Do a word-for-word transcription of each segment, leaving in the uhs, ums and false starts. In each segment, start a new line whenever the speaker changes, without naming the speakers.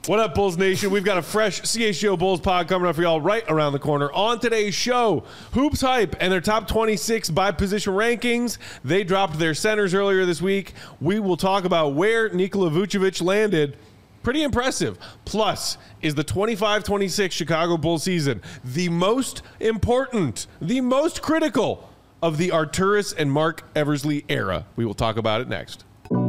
What up, Bulls Nation? We've got a fresh C H G O Bulls pod coming up for y'all right around the corner. On today's show, Hoops Hype and their top twenty-six by position rankings. They dropped their centers earlier this week. We will talk about where Nikola Vucevic landed. Pretty impressive. Plus, is the twenty-five twenty-six Chicago Bulls season the most important, the most critical of the Arturas and Mark Eversley era? We will talk about it next.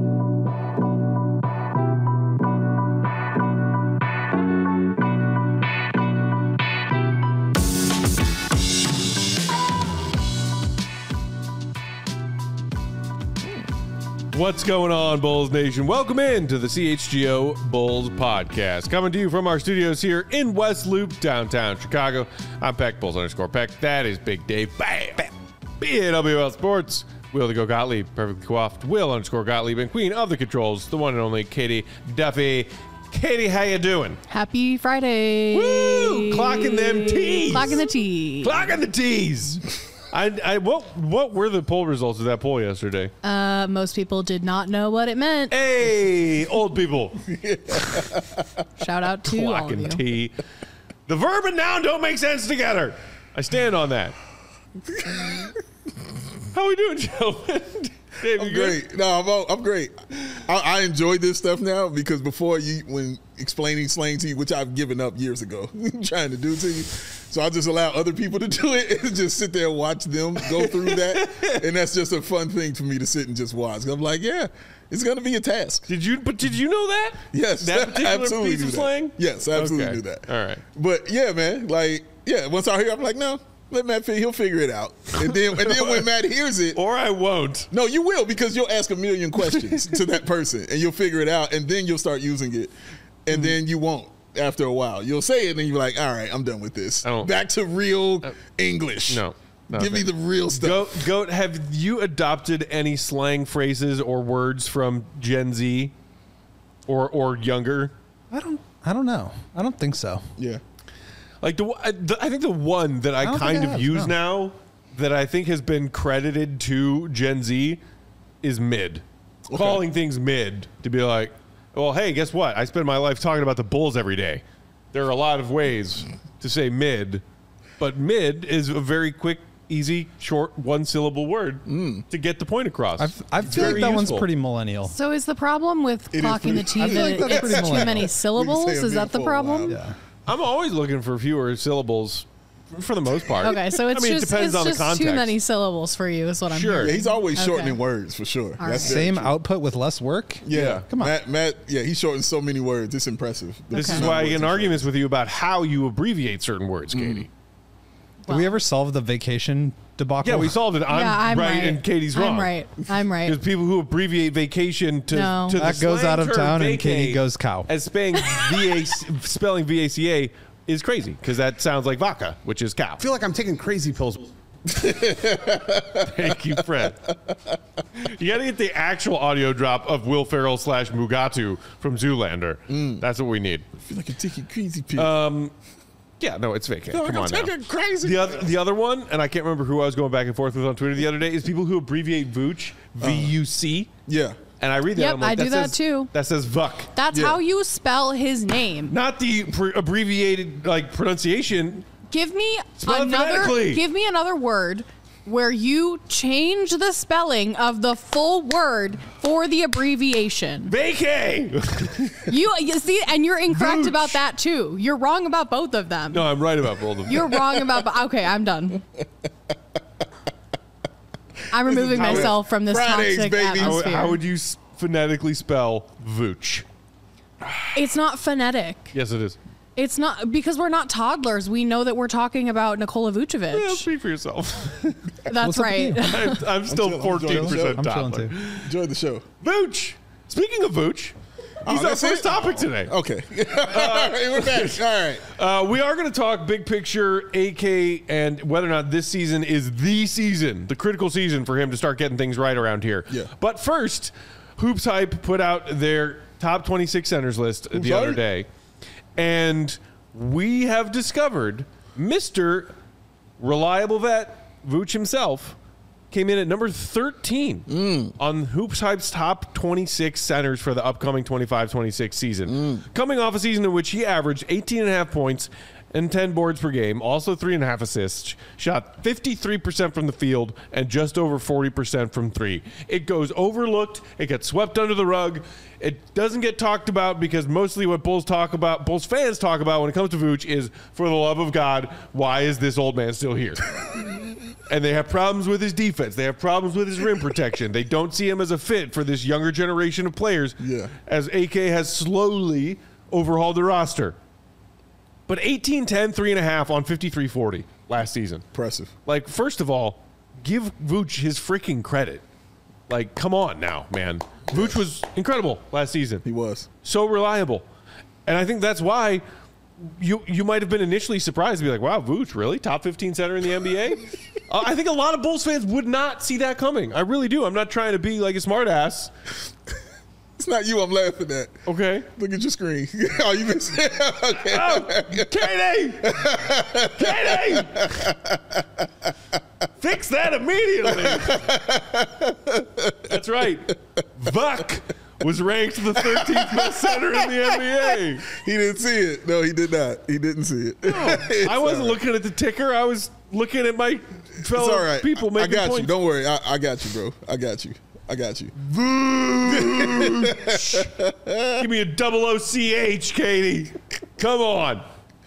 What's going on, Bulls Nation? Welcome in to the C H G O Bulls podcast. Coming to you from our studios here in West Loop, downtown Chicago. I'm Peck, Bulls underscore Peck. That is Big Dave. Bam! Bam. B A W L Sports. Will to go Gottlieb, perfectly coiffed. Will underscore Gottlieb, and Queen of the Controls, the one and only Katie Duffy. Katie, how you doing?
Happy Friday.
Woo! Clocking them T's.
Clocking the T's.
Clocking the T's. I, I, what, what were the poll results of that poll yesterday?
Uh, most people did not know what it meant.
Hey, old people.
Shout out to all of you.
T. The verb and noun don't make sense together. I stand on that. How we doing, gentlemen? Dave,
I'm
you
great.
good?
No, I'm all, I'm great. I, I enjoy this stuff now because before you, when explaining slang to you, which I've given up years ago, trying to do to you, so I just allow other people to do it and just sit there and watch them go through that, and that's just a fun thing for me to sit and just watch. I'm like, yeah, it's gonna be a task.
Did you? But did you know that?
Yes,
that particular
absolutely
piece
knew
of
that.
slang.
Yes, I absolutely
Okay.
knew that.
All right.
But yeah, man, like yeah, once I hear, I'm like, no. Let Matt figure, he'll figure it out. And then and then when Matt hears it.
Or I won't.
No, you will, because you'll ask a million questions to that person and you'll figure it out, and then you'll start using it. And mm. then you won't after a while. You'll say it and you're like, all right, I'm done with this. Back to real uh, English.
No. no
Give me the real stuff.
Goat, Goat, have you adopted any slang phrases or words from Gen Z or or younger?
I don't I don't know. I don't think so.
Yeah.
Like the, the, I think the one that I, I kind of I have, use no. now that I think has been credited to Gen Z is mid. Okay. Calling things mid to be like, well, hey, guess what? I spend my life talking about the Bulls every day. There are a lot of ways to say mid, but mid is a very quick, easy, short, one-syllable word mm. to get the point across.
I've, I feel like that useful. one's pretty millennial.
So is the problem with
it
clocking the T that
like
it's too many syllables? Is that the problem?
Yeah.
I'm always looking for fewer syllables for the most part.
Okay, so it's
I mean,
just,
it depends
it's
on
just
the context.
too many syllables for you is what I'm
sure.
hearing.
Yeah, he's always shortening
okay.
words for sure.
All
That's
right.
Same output with less work?
Yeah.
yeah.
Come on.
Matt, Matt, yeah, he shortens so many words. It's impressive.
This
okay.
is why I get in arguments with you about how you abbreviate certain words, Katie.
Mm.
Did we ever solve the vacation debacle?
Yeah, we solved it. I'm,
yeah, I'm
right,
right
and Katie's wrong.
I'm right. I'm right.
There's people who abbreviate vacation to,
no.
to the
that goes out of town and Katie goes cow.
As spelling V A spelling V A C A is crazy because that sounds like vodka, which is cow.
I feel like I'm taking crazy pills.
Thank you, Fred. You got to get the actual audio drop of Will Ferrell slash Mugatu from Zoolander. Mm. That's what we need.
I feel like I'm taking crazy pills.
Um, yeah, no, it's vacant. Come
like
on
I'm
now.
Crazy
the other, the other one, and I can't remember who I was going back and forth with on Twitter the other day, is people who abbreviate Vooch, V U C.
Uh, yeah.
And I read that.
Yep,
I'm like,
I
that
do that
says,
too.
That says Vuck.
That's
yeah.
how you spell his name.
Not the pre- abbreviated like pronunciation.
Give me
Spell it
another.
phonetically.
Give me another word where you change the spelling of the full word for the abbreviation.
Vacay.
You, you see, and you're incorrect
Vooch.
about that too. You're wrong about both of them.
No, I'm right about both of them.
You're wrong about. Okay, I'm done. I'm removing
How
myself
would-
from this
Fridays,
toxic
baby.
How,
atmosphere.
how would you s- phonetically spell Vooch?
It's not phonetic.
Yes, it is.
It's not, because we're not toddlers. We know that we're talking about Nikola Vucevic.
Yeah, speak for yourself.
That's
What's up
right.
with you?
I'm, I'm still
chilling, I'm
fourteen
chilling.
percent
I'm chilling
toddler.
too.
Enjoy the show.
Vooch. Speaking of Vooch,
Oh,
he's our
that's
first
it?
topic today.
Okay. All right, we're back. All right.
Uh, we are going to talk big picture, A K, and whether or not this season is the season, the critical season for him to start getting things right around here.
Yeah.
But first, Hoops Hype put out their top twenty-six centers list
Hoops
the other
Hype?
day, and we have discovered Mister Reliable Vet, Vooch himself, came in at number thirteen mm. on Hoops Hype's top twenty-six centers for the upcoming twenty-five twenty-six season. Mm. Coming off a season in which he averaged eighteen and a half points and ten boards per game, also three and a half assists, shot fifty-three percent from the field and just over forty percent from three. It goes overlooked. It gets swept under the rug. It doesn't get talked about because mostly what Bulls talk about, Bulls fans talk about when it comes to Vooch is, for the love of God, why is this old man still here? And they have problems with his defense. They have problems with his rim protection. They don't see him as a fit for this younger generation of players,
yeah.
as A K has slowly overhauled the roster. But eighteen, ten, three and a half on fifty-three forty last season.
Impressive.
Like, first of all, give Vooch his freaking credit. Like, come on now, man. Vooch was incredible last season.
He was.
So reliable. And I think that's why you you might have been initially surprised to be like, wow, Vooch, really? Top fifteen center in the N B A? uh, I think a lot of Bulls fans would not see that coming. I really do. I'm not trying to be like a smartass.
It's not you I'm laughing at.
Okay.
Look at your screen. Oh, you been saying okay.
Oh, Katie! Katie! Fix that immediately. That's right. Vuk was ranked the thirteenth best center in the N B A.
He didn't see it. No, he did not. He didn't see it.
No, I wasn't right. looking at the ticker. I was looking at my fellow
it's all right.
people making
I got
points.
you. Don't worry. I, I got you, bro. I got you. I got you.
Give me a double O C H, Katie. Come on.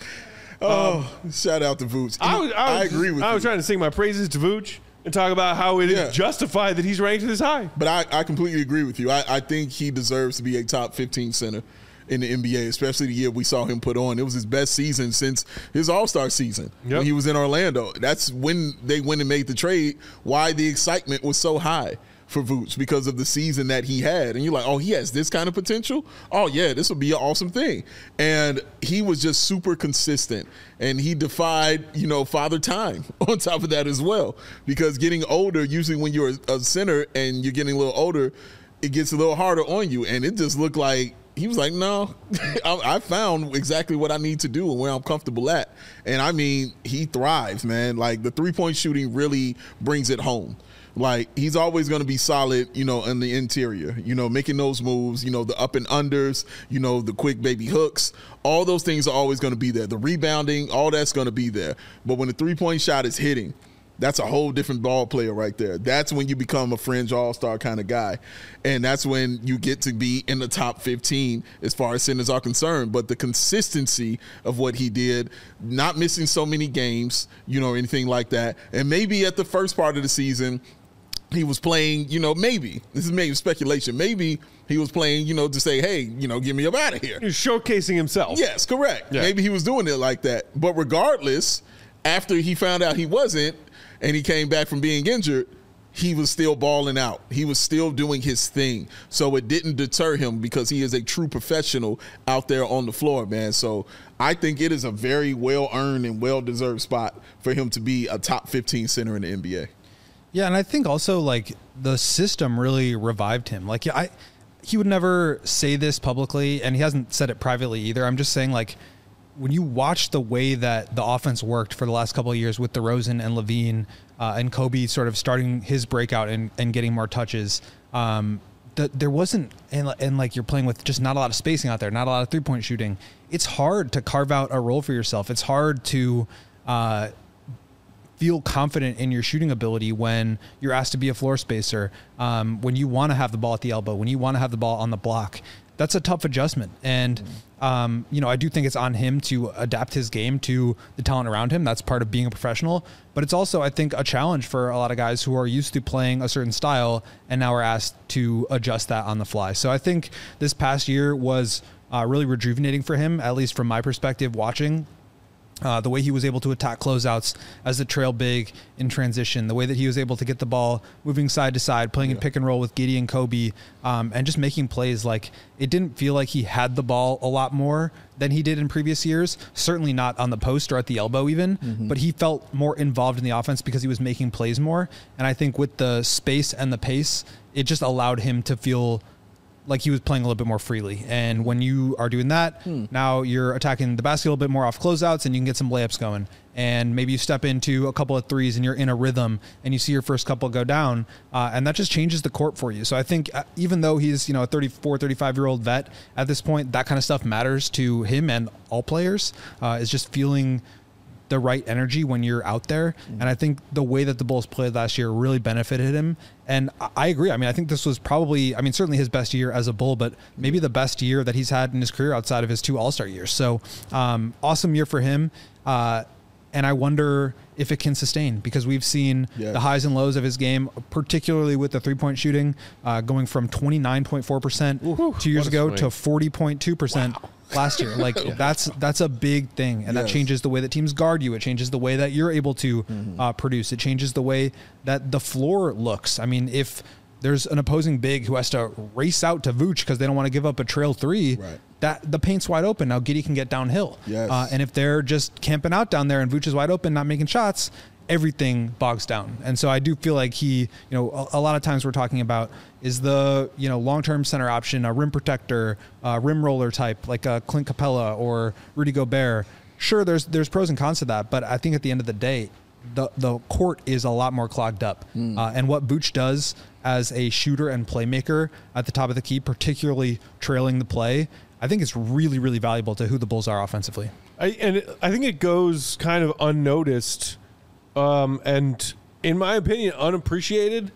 Oh, um, shout out to Vooch.
I, was, I, was,
I agree with
I
you.
I was trying to sing my praises to Vooch and talk about how it yeah. is justified that he's ranked this high.
But I, I completely agree with you. I, I think he deserves to be a top fifteen center in the N B A, especially the year we saw him put on. It was his best season since his All-Star season yep. when he was in Orlando. That's when they went and made the trade, why the excitement was so high for Vooch, because of the season that he had. And you're like, oh, he has this kind of potential? Oh, yeah, this will be an awesome thing. And he was just super consistent. And he defied, you know, father time on top of that as well. Because getting older, usually when you're a center and you're getting a little older, it gets a little harder on you. And it just looked like he was like, no, I found exactly what I need to do and where I'm comfortable at. And, I mean, he thrives, man. Like, the three-point shooting really brings it home. Like, he's always going to be solid, you know, in the interior, you know, making those moves, you know, the up and unders, you know, the quick baby hooks. All those things are always going to be there. The rebounding, all that's going to be there. But when the three-point shot is hitting, that's a whole different ball player right there. That's when you become a fringe all-star kind of guy. And that's when you get to be in the top fifteen as far as centers are concerned. But the consistency of what he did, not missing so many games, you know, anything like that. And maybe at the first part of the season, he was playing, you know, maybe, this is maybe speculation, maybe he was playing, you know, to say, hey, you know, get me up out of here.
He was showcasing himself.
Yes, correct.
Yeah.
Maybe he was doing it like that. But regardless, after he found out he wasn't and he came back from being injured, he was still balling out. He was still doing his thing. So it didn't deter him because he is a true professional out there on the floor, man. So I think it is a very well-earned and well-deserved spot for him to be a top fifteen center in the N B A.
Yeah, and I think also, like, the system really revived him. Like, I, he would never say this publicly, and he hasn't said it privately either. I'm just saying, like, when you watch the way that the offense worked for the last couple of years with DeRozan and Levine uh, and Kobe sort of starting his breakout and, and getting more touches, um, the, there wasn't, and, and, like, you're playing with just not a lot of spacing out there, not a lot of three-point shooting. It's hard to carve out a role for yourself. It's hard to uh, – feel confident in your shooting ability when you're asked to be a floor spacer, um, when you want to have the ball at the elbow, when you want to have the ball on the block. That's a tough adjustment. And, um, you know, I do think it's on him to adapt his game to the talent around him. That's part of being a professional. But it's also, I think, a challenge for a lot of guys who are used to playing a certain style and now are asked to adjust that on the fly. So I think this past year was uh, really rejuvenating for him, at least from my perspective watching. Uh, the way he was able to attack closeouts as the trail big in transition, the way that he was able to get the ball moving side to side, playing yeah. in pick and roll with Giddey and Kobe, um, and just making plays. Like, it didn't feel like he had the ball a lot more than he did in previous years. Certainly not on the post or at the elbow even, mm-hmm. but he felt more involved in the offense because he was making plays more. And I think with the space and the pace, it just allowed him to feel like he was playing a little bit more freely. And when you are doing that, hmm. now you're attacking the basket a little bit more off closeouts and you can get some layups going. And maybe you step into a couple of threes and you're in a rhythm and you see your first couple go down. Uh, and that just changes the court for you. So I think uh, even though he's, you know, a thirty-four, thirty-five year old vet at this point, that kind of stuff matters to him and all players, uh, is just feeling the right energy when you're out there. Mm-hmm. And I think the way that the Bulls played last year really benefited him. And I agree. I mean, I think this was probably, I mean, certainly his best year as a Bull, but maybe the best year that he's had in his career outside of his two All-Star years. So um, awesome year for him. Uh, and I wonder if it can sustain, because we've seen yes. the highs and lows of his game, particularly with the three-point shooting, uh, going from twenty-nine point four percent Ooh, two years ago swing. to forty point two percent wow. last year. Like yeah. that's that's a big thing, and yes. that changes the way that teams guard you. It changes the way that you're able to mm-hmm. uh, produce. It changes the way that the floor looks. I mean, if there's an opposing big who has to race out to Vooch because they don't want to give up a trail three, right. that the paint's wide open. Now Giddey can get downhill. Yes. Uh, and if they're just camping out down there and Vooch is wide open, not making shots, everything bogs down. And so I do feel like he, you know, a, a lot of times we're talking about is the, you know, long-term center option, a rim protector, uh, rim roller type, like a Clint Capella or Rudy Gobert. Sure, there's there's pros and cons to that, but I think at the end of the day, the the court is a lot more clogged up. Mm. Uh, and what Vooch does as a shooter and playmaker at the top of the key, particularly trailing the play, I think it's really, really valuable to who the Bulls are offensively.
I, and it, I think it goes kind of unnoticed um, and, in my opinion, unappreciated,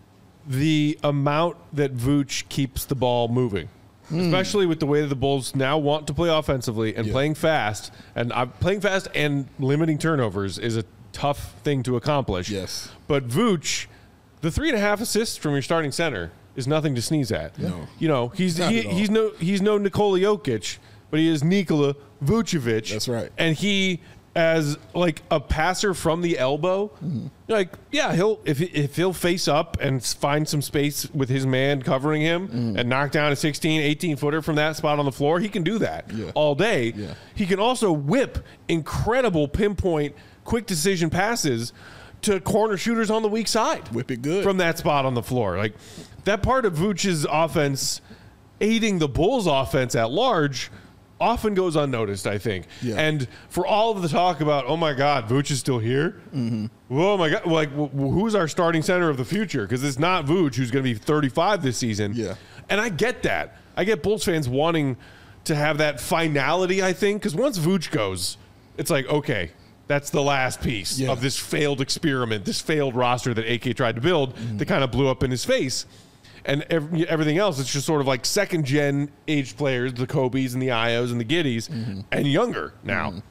the amount that Vooch keeps the ball moving. Mm. Especially with the way that the Bulls now want to play offensively and yeah. playing fast. And uh, playing fast and limiting turnovers is a tough thing to accomplish.
Yes.
But Vooch, the three and a half assists from your starting center is nothing to sneeze at.
No.
You know, he's he, he's no he's no Nikola Jokic, but he is Nikola Vucevic.
That's right.
And he, as like a passer from the elbow, mm-hmm. like yeah, he'll if if he'll face up and find some space with his man covering him mm-hmm. and knock down a sixteen, eighteen footer from that spot on the floor, he can do that yeah. all day.
Yeah.
He can also whip incredible pinpoint quick decision passes to corner shooters on the weak side.
Whip it good.
From that spot on the floor. Like, that part of Vooch's offense aiding the Bulls' offense at large often goes unnoticed, I think.
Yeah.
And for all of the talk about, oh, my God, Vooch is still here? Mm-hmm. Oh, my God. Like, who's our starting center of the future? Because it's not Vooch, who's going to be thirty-five this season.
Yeah.
And I get that. I get Bulls fans wanting to have that finality, I think, because once Vooch goes, it's like, okay, that's the last piece yeah. of this failed experiment, this failed roster that A K tried to build mm-hmm. that kind of blew up in his face. And every, everything else, it's just sort of like second-gen aged players, the Kobe's and the Ios and the Giddies, mm-hmm. and younger now. Mm-hmm.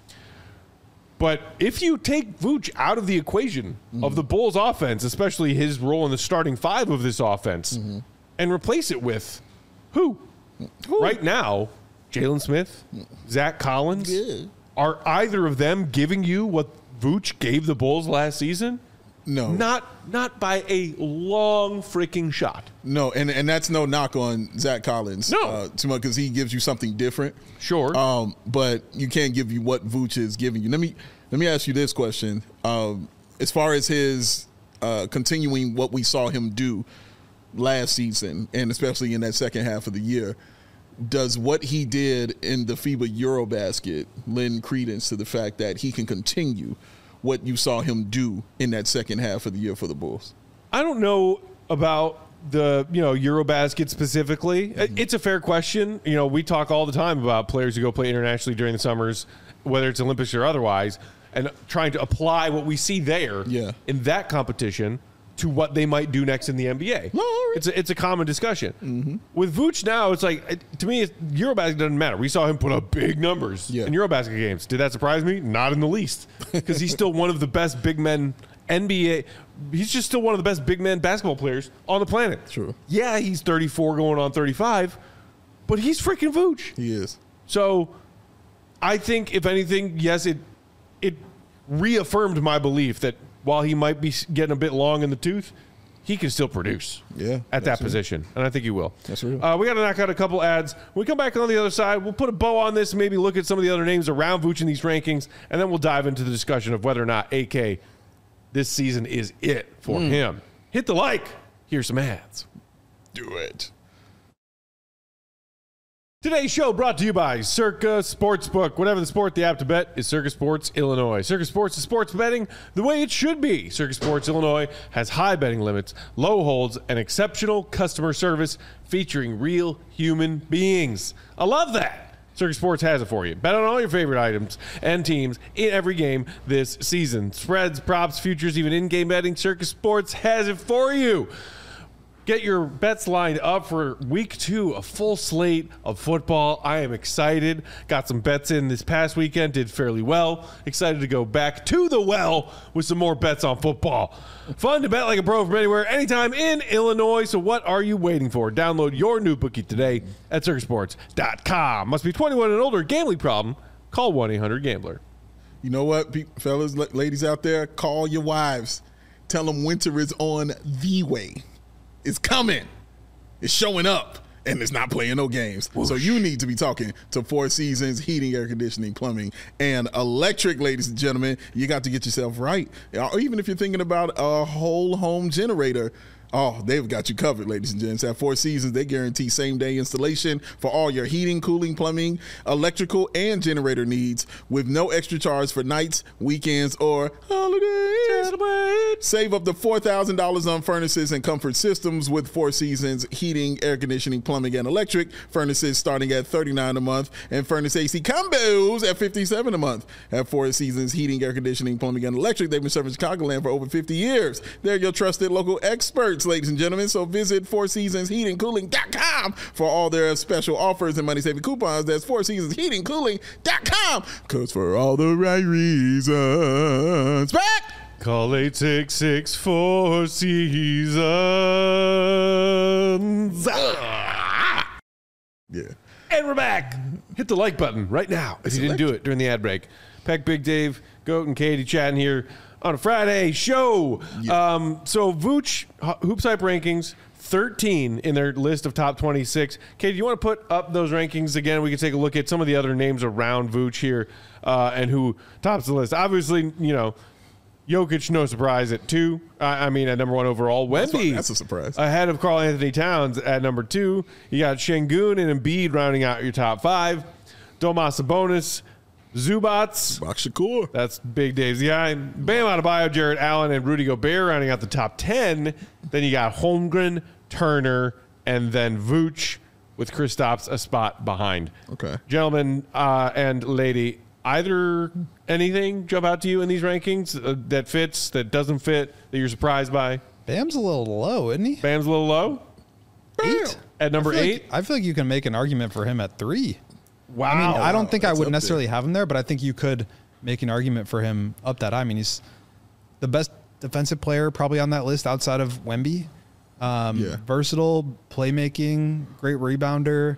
But if you take Vooch out of the equation mm-hmm. of the Bulls' offense, especially his role in the starting five of this offense, mm-hmm. and replace it with who? who? Right now, Jalen Smith, Zach Collins,
yeah.
are either of them giving you what Vooch gave the Bulls last season?
No.
Not not by a long freaking shot.
No, and, and that's no knock on Zach Collins.
No.
Uh, too much, because he gives you something different.
Sure.
Um, but you can't give you what Vooch is giving you. Let me let me ask you this question. Um, as far as his uh, continuing what we saw him do last season, and especially in that second half of the year, does what he did in the FIBA Eurobasket lend credence to the fact that he can continue what you saw him do in that second half of the year for the Bulls?
I don't know about the, you know, Eurobasket specifically. Mm-hmm. It's a fair question. You know, we talk all the time about players who go play internationally during the summers, whether it's Olympics or otherwise, and trying to apply what we see there
yeah.
in that competition to what they might do next in the N B A.
No,
it's a, it's a common discussion.
Mm-hmm.
With Vooch now, it's like, it, to me, it's, Eurobasket doesn't matter. We saw him put up big numbers
yeah.
in Eurobasket games. Did that surprise me? Not in the least, because he's still one of the best big men N B A. He's just still one of the best big men basketball players on the planet.
True.
Yeah, he's thirty-four going on thirty-five, but he's freaking Vooch.
He is.
So I think, if anything, yes, it it reaffirmed my belief that while he might be getting a bit long in the tooth, he can still produce
yeah,
at that position. And I think he will.
That's real.
Uh, we got to knock out a couple ads. When we come back on the other side, we'll put a bow on this and maybe look at some of the other names around Vooch in these rankings, and then we'll dive into the discussion of whether or not A K this season is it for mm. him. Hit the like. Here's some ads.
Do it.
Today's show brought to you by Circa Sportsbook. Whatever the sport, the app to bet is Circa Sports Illinois. Circa Sports is sports betting the way it should be. Circa Sports Illinois has high betting limits, low holds, and exceptional customer service featuring real human beings. I love that. Circa Sports has it for you. Bet on all your favorite items and teams in every game this season. Spreads, props, futures, even in-game betting. Circa Sports has it for you. Get your bets lined up for week two, a full slate of football. I am excited. Got some bets in this past weekend, did fairly well. Excited to go back to the well with some more bets on football. Fun to bet like a pro from anywhere, anytime in Illinois. So what are you waiting for? Download your new bookie today at circa sports dot com. Must be twenty-one and older. Gambling problem? Call one eight hundred gambler.
You know what, pe- fellas, la- ladies out there, call your wives. Tell them winter is on the way. It's coming. It's showing up. And it's not playing no games. Whoosh. So you need to be talking to Four Seasons Heating, Air Conditioning, Plumbing, and Electric, ladies and gentlemen. You got to get yourself right. Or even if you're thinking about a whole home generator, oh, they've got you covered, ladies and gents. At Four Seasons, they guarantee same-day installation for all your heating, cooling, plumbing, electrical, and generator needs with no extra charge for nights, weekends, or holidays. Save up to four thousand dollars on furnaces and comfort systems with Four Seasons Heating, Air Conditioning, Plumbing, and Electric. Furnaces starting at thirty-nine dollars a month and furnace A C combos at fifty-seven dollars a month. At Four Seasons Heating, Air Conditioning, Plumbing, and Electric, they've been serving Chicagoland for over fifty years. They're your trusted local experts, ladies and gentlemen. So visit four seasons heating cooling dot com for all their special offers and money-saving coupons. That's four seasons heating cooling dot com. Because for all the right reasons. Back!
Call eight six six four seasons.
Yeah.
And we're back. Hit the like button right now if you didn't do it during the ad break. Peck, Big Dave, Goat, and Katie chatting here on a Friday show. Yeah. Um, so Vooch, Hoops Hype rankings, thirteen in their list of top twenty-six. Katie, do you want to put up those rankings again? We can take a look at some of the other names around Vooch here uh, and who tops the list. Obviously, you know, Jokic, no surprise at two. I, I mean, at number one overall. Wemby,
that's, that's a surprise.
Ahead of Karl Anthony Towns at number two. You got Şengün and Embiid rounding out your top five. Domas Sabonis, Zubats.
Box Shakur.
That's Big Dave's guy. Bam Adebayo, Jarrett Allen, and Rudy Gobert rounding out the top ten. Then you got Holmgren, Turner, and then Vooch with Kristaps a spot behind.
Okay.
Gentlemen uh, and lady, either anything jump out to you in these rankings uh, that fits, that doesn't fit, that you're surprised by?
Bam's a little low, isn't he?
Bam's a little low?
Eight.
At number
I
eight?
Like, I feel like you can make an argument for him at three.
Wow.
I mean, I don't think
That's
I would
up
necessarily
there.
have him there, but I think you could make an argument for him up that high. I mean, he's the best defensive player probably on that list outside of Wemby. Um,
Yeah.
Versatile, playmaking, great rebounder.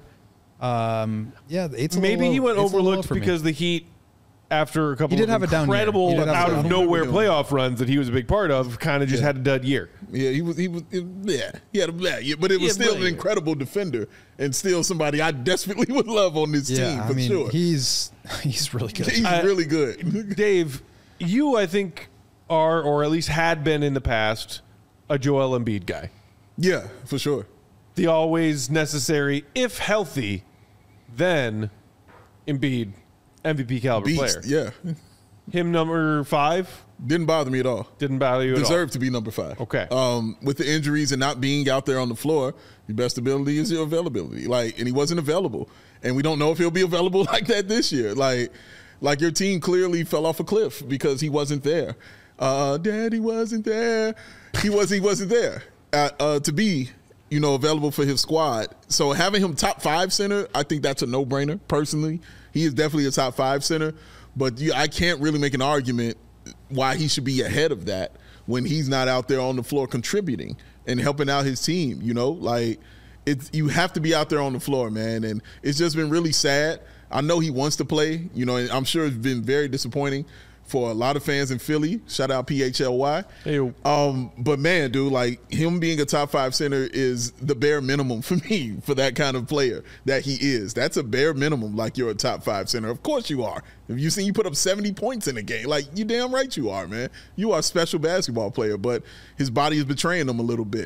Um, yeah, the eight's a
Maybe
little
he
low.
went
Eight's a little low
overlooked
for me.
because the Heat, after a couple
He did
of
have a down year.
incredible
He did have a
out
down
of
year.
nowhere
Yeah.
playoff runs that he was a big part of, kind of just had a dud year.
Yeah, he was. He was. Yeah, he had a bad year, but it was
Yeah,
still
but-
an incredible defender and still somebody I desperately would love on this
yeah,
team for
I mean,
sure.
he's he's really good.
He's
I-
really good.
Dave, you, I think, are, or at least had been in the past, a Joel Embiid guy.
Yeah, for sure.
The always necessary, if healthy, then Embiid, M V P caliber
Beast.
player.
Yeah,
Him number five
didn't bother me at all.
didn't bother you at all.
Deserved to be number five.
Okay.
Um, with the injuries and not being out there on the floor, your best ability is your availability. Like, and he wasn't available, and we don't know if he'll be available like that this year. Like, like your team clearly fell off a cliff because he wasn't there. Uh, Daddy wasn't there. He was. He wasn't there uh, uh, to be, you know, available for his squad. So having him top five center, I think that's a no brainer. Personally, he is definitely a top five center. But you, I can't really make an argument why he should be ahead of that when he's not out there on the floor contributing and helping out his team. You know, like it's you have to be out there on the floor, man. And it's just been really sad. I know he wants to play, you know, and I'm sure it's been very disappointing for a lot of fans in Philly. Shout out P H L Y.
Hey.
Um, but man, dude, like him being a top five center is the bare minimum for me for that kind of player that he is. That's a bare minimum. Like you're a top five center. Of course you are. If you seen you put up seventy points in a game, like you damn right you are, man. You are a special basketball player, but his body is betraying him a little bit.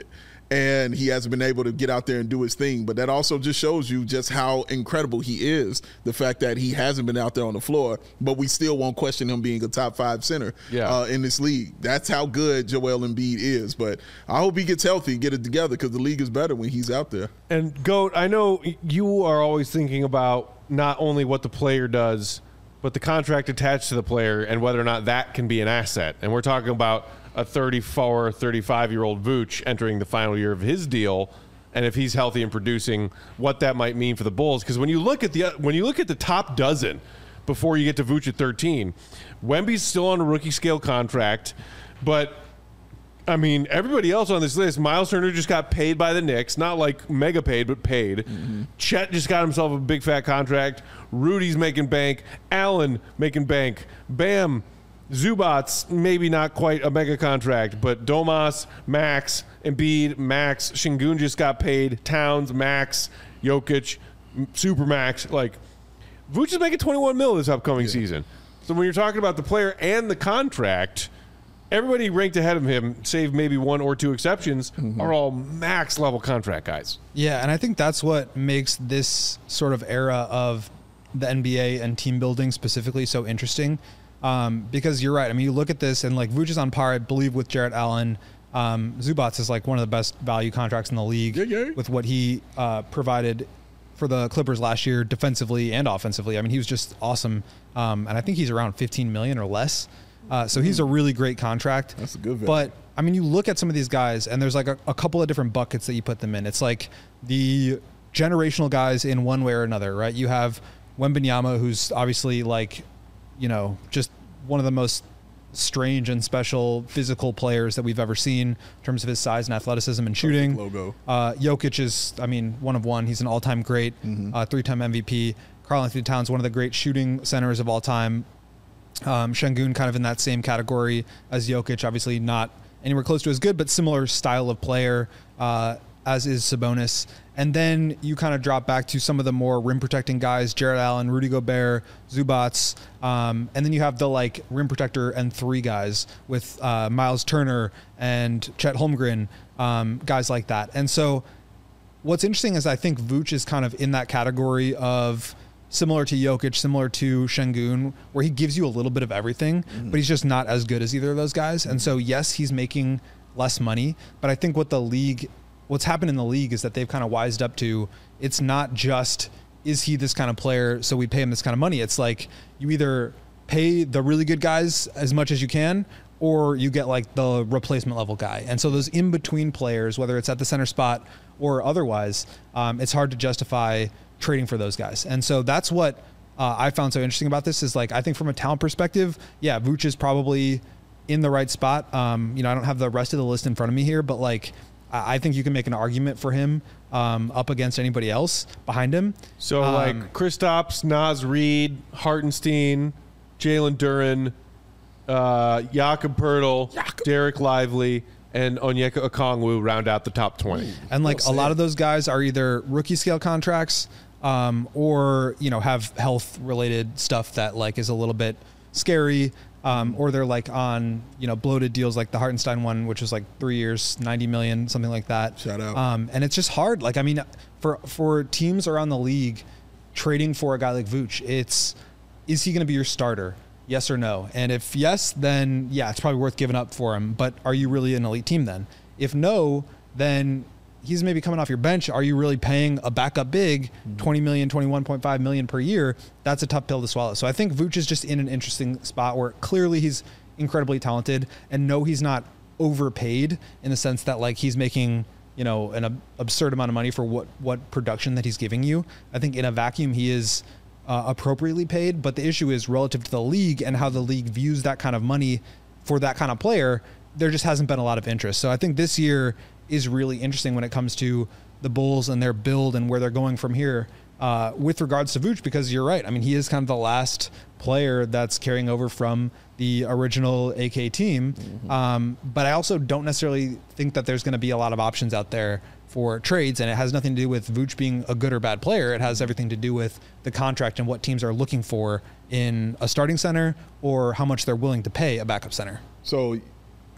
and he hasn't been able to get out there and do his thing. But that also just shows you just how incredible he is, the fact that he hasn't been out there on the floor, but we still won't question him being a top five center
yeah.
uh, in this league. That's how good Joel Embiid is. But I hope he gets healthy, get it together, because the league is better when he's out there.
And, Goat, I know you are always thinking about not only what the player does, but the contract attached to the player and whether or not that can be an asset. And we're talking about a thirty-four, thirty-five-year-old Vooch entering the final year of his deal, and if he's healthy and producing, what that might mean for the Bulls. Because when you look at the when you look at the top dozen before you get to Vooch at thirteen, Wemby's still on a rookie scale contract, but I mean, everybody else on this list, Miles Turner just got paid by the Knicks, not like mega paid, but paid. Mm-hmm. Chet just got himself a big fat contract. Rudy's making bank. Allen making bank. Bam. Zubats, maybe not quite a mega contract, but Domas, Max, Embiid, Max, Şengün just got paid, Towns, Max, Jokic, Supermax. Like, Vooch is making twenty-one mil this upcoming yeah. season. So when you're talking about the player and the contract, everybody ranked ahead of him, save maybe one or two exceptions, mm-hmm. are all max level contract guys.
Yeah, and I think that's what makes this sort of era of the N B A and team building specifically so interesting. Um, because you're right. I mean, you look at this and like Vooch is on par, I believe, with Jarrett Allen. Um, Zubats is like one of the best value contracts in the league
yeah, yeah.
with what he uh, provided for the Clippers last year defensively and offensively. I mean, he was just awesome. Um, and I think he's around fifteen million or less. Uh, so he's a really great contract.
That's a good value.
But I mean, you look at some of these guys and there's like a, a couple of different buckets that you put them in. It's like the generational guys in one way or another, right? You have Wembanyama, who's obviously like, you know, just one of the most strange and special physical players that we've ever seen in terms of his size and athleticism and shooting.
Logo.
Uh, Jokic is, I mean, one of one. He's an all-time great, mm-hmm. uh, three-time M V P. Karl-Anthony Towns, one of the great shooting centers of all time. Um, Şengün kind of in that same category as Jokic, obviously not anywhere close to as good, but similar style of player, uh, as is Sabonis. And then you kind of drop back to some of the more rim protecting guys, Jarrett Allen, Rudy Gobert, Zubats. Um, and then you have the like rim protector and three guys with uh, Miles Turner and Chet Holmgren, um, guys like that. And so what's interesting is I think Vooch is kind of in that category of similar to Jokic, similar to Şengün, where he gives you a little bit of everything, mm-hmm. but he's just not as good as either of those guys. And so, yes, he's making less money, but I think what the league, what's happened in the league is that they've kind of wised up to, it's not just, is he this kind of player, so we pay him this kind of money. It's like you either pay the really good guys as much as you can, or you get like the replacement level guy. And so those in-between players, whether it's at the center spot or otherwise, um, it's hard to justify trading for those guys. And so that's what uh, I found so interesting about this is like, I think from a talent perspective, yeah, Vooch is probably in the right spot. Um, you know, I don't have the rest of the list in front of me here, but like, I think you can make an argument for him um, up against anybody else behind him.
So
um,
like Kristaps, Naz Reid, Hartenstein, Jalen Duren, uh, Jakob Poeltl,
Jakob.
Derek Lively, and Onyeka Okongwu round out the top twenty.
And like a lot of those guys are either rookie scale contracts um, or, you know, have health related stuff that like is a little bit scary. Um, or they're like on, you know, bloated deals like the Hartenstein one, which was like three years, ninety million, something like that.
Shout out.
Um, and it's just hard. Like, I mean, for, for teams around the league trading for a guy like Vooch, it's, is he going to be your starter? Yes or no? And if yes, then yeah, it's probably worth giving up for him. But are you really an elite team then? If no, then he's maybe coming off your bench. Are you really paying a backup big twenty million, twenty-one point five million per year? That's a tough pill to swallow. So I think Vooch is just in an interesting spot where clearly he's incredibly talented, and no, he's not overpaid in the sense that like he's making, you know, an ab- absurd amount of money for what, what production that he's giving you. I think in a vacuum, he is uh, appropriately paid, but the issue is relative to the league and how the league views that kind of money for that kind of player. There just hasn't been a lot of interest. So I think this year is really interesting when it comes to the Bulls and their build and where they're going from here uh, with regards to Vooch, because you're right. I mean, he is kind of the last player that's carrying over from the original A K team. Mm-hmm. Um, but I also don't necessarily think that there's going to be a lot of options out there for trades, and it has nothing to do with Vooch being a good or bad player. It has everything to do with the contract and what teams are looking for in a starting center or how much they're willing to pay a backup center.
So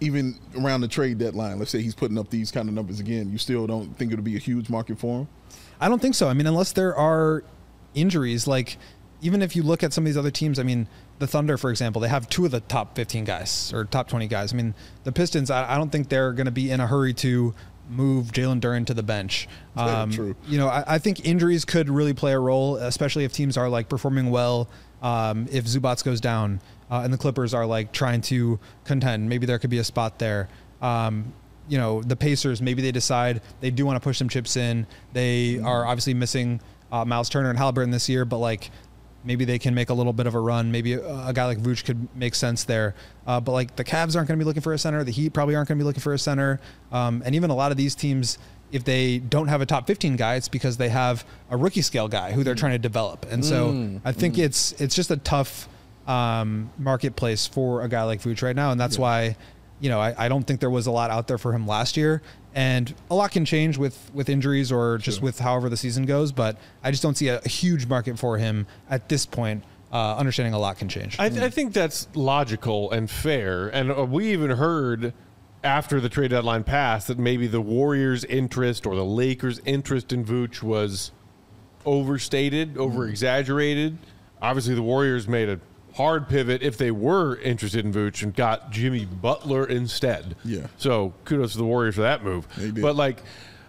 even around the trade deadline, let's say he's putting up these kind of numbers again, you still don't think it'll be a huge market for him?
I don't think so. I mean, unless there are injuries, like even if you look at some of these other teams, I mean, the Thunder, for example, they have two of the top fifteen guys or top twenty guys. I mean, the Pistons, I, I don't think they're going to be in a hurry to move Jalen Duren to the bench. Um,
yeah, true.
You know, I, I think injuries could really play a role, especially if teams are like performing well. Um, if Zubats goes down uh, and the Clippers are like trying to contend, maybe there could be a spot there. Um, you know, the Pacers, maybe they decide they do want to push some chips in. They mm-hmm. are obviously missing uh, Miles Turner and Halliburton this year, but like maybe they can make a little bit of a run. Maybe a, a guy like Vooch could make sense there. Uh, but like the Cavs aren't going to be looking for a center. The Heat probably aren't going to be looking for a center. Um, and even a lot of these teams, if they don't have a top fifteen guy, it's because they have a rookie scale guy who they're trying to develop. And so mm, I think mm. it's it's just a tough um, marketplace for a guy like Vooch right now. And that's yeah. why, you know, I, I don't think there was a lot out there for him last year. And a lot can change with, with injuries or just sure. with however the season goes. But I just don't see a, a huge market for him at this point. Uh, understanding a lot can change.
I, th- I think that's logical and fair. And uh, we even heard after the trade deadline passed that maybe the Warriors' interest or the Lakers' interest in Vooch was overstated, over-exaggerated. Obviously, the Warriors made a hard pivot if they were interested in Vooch and got Jimmy Butler instead.
Yeah.
So kudos to the Warriors for that move.
They did.
But, like,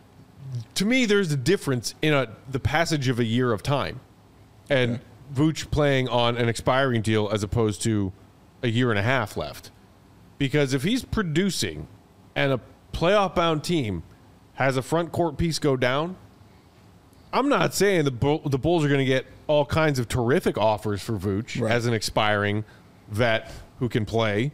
to me, there's a difference in a, the passage of a year of time and yeah. Vooch playing on an expiring deal as opposed to a year and a half left. Because if he's producing and a playoff-bound team has a front court piece go down, I'm not saying the Bull, the Bulls are going to get all kinds of terrific offers for Vooch right. as an expiring vet who can play,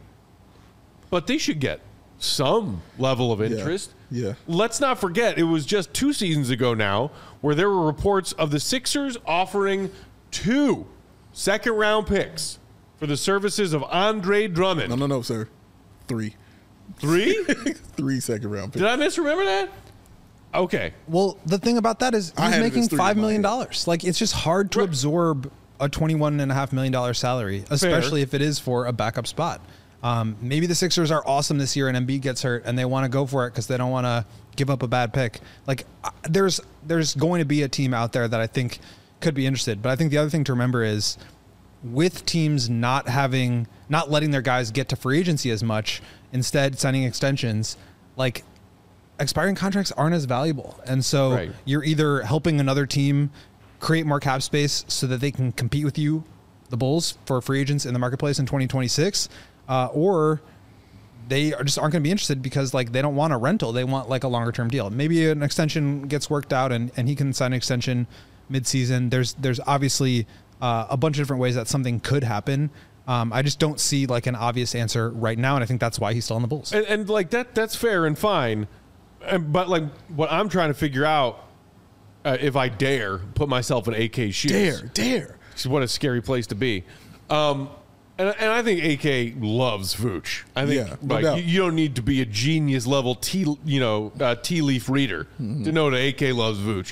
but they should get some level of interest.
Yeah. yeah.
Let's not forget, it was just two seasons ago now where there were reports of the Sixers offering two second-round picks for the services of Andre Drummond.
No, no, no, sir. Three.
Three?
Three second round picks.
Did I misremember that? Okay.
Well, the thing about that is he's making five million dollars. Like, it's just hard to right. absorb a twenty-one and a half million dollar salary, especially Fair. if it is for a backup spot. Um, maybe the Sixers are awesome this year and Embiid gets hurt and they want to go for it because they don't want to give up a bad pick. Like, there's there's going to be a team out there that I think could be interested. But I think the other thing to remember is with teams not having, not letting their guys get to free agency as much, instead signing extensions, like expiring contracts aren't as valuable. And so right. you're either helping another team create more cap space so that they can compete with you, the Bulls, for free agents in the marketplace in twenty twenty-six, uh, or they are just aren't going to be interested because like they don't want a rental. They want like a longer term deal. Maybe an extension gets worked out and, and he can sign an extension mid-season. There's, there's obviously Uh, a bunch of different ways that something could happen. Um, I just don't see like an obvious answer right now, and I think that's why he's still on the Bulls.
And, and like that, that's fair and fine. And, but like what I'm trying to figure out, uh, if I dare put myself in A K's shoes,
dare, dare.
What a scary place to be. Um, and, and I think A K loves Vooch. I think
yeah, no
like
doubt.
you, you don't need to be a genius level tea, you know, uh, tea leaf reader mm-hmm. to know that A K loves Vooch.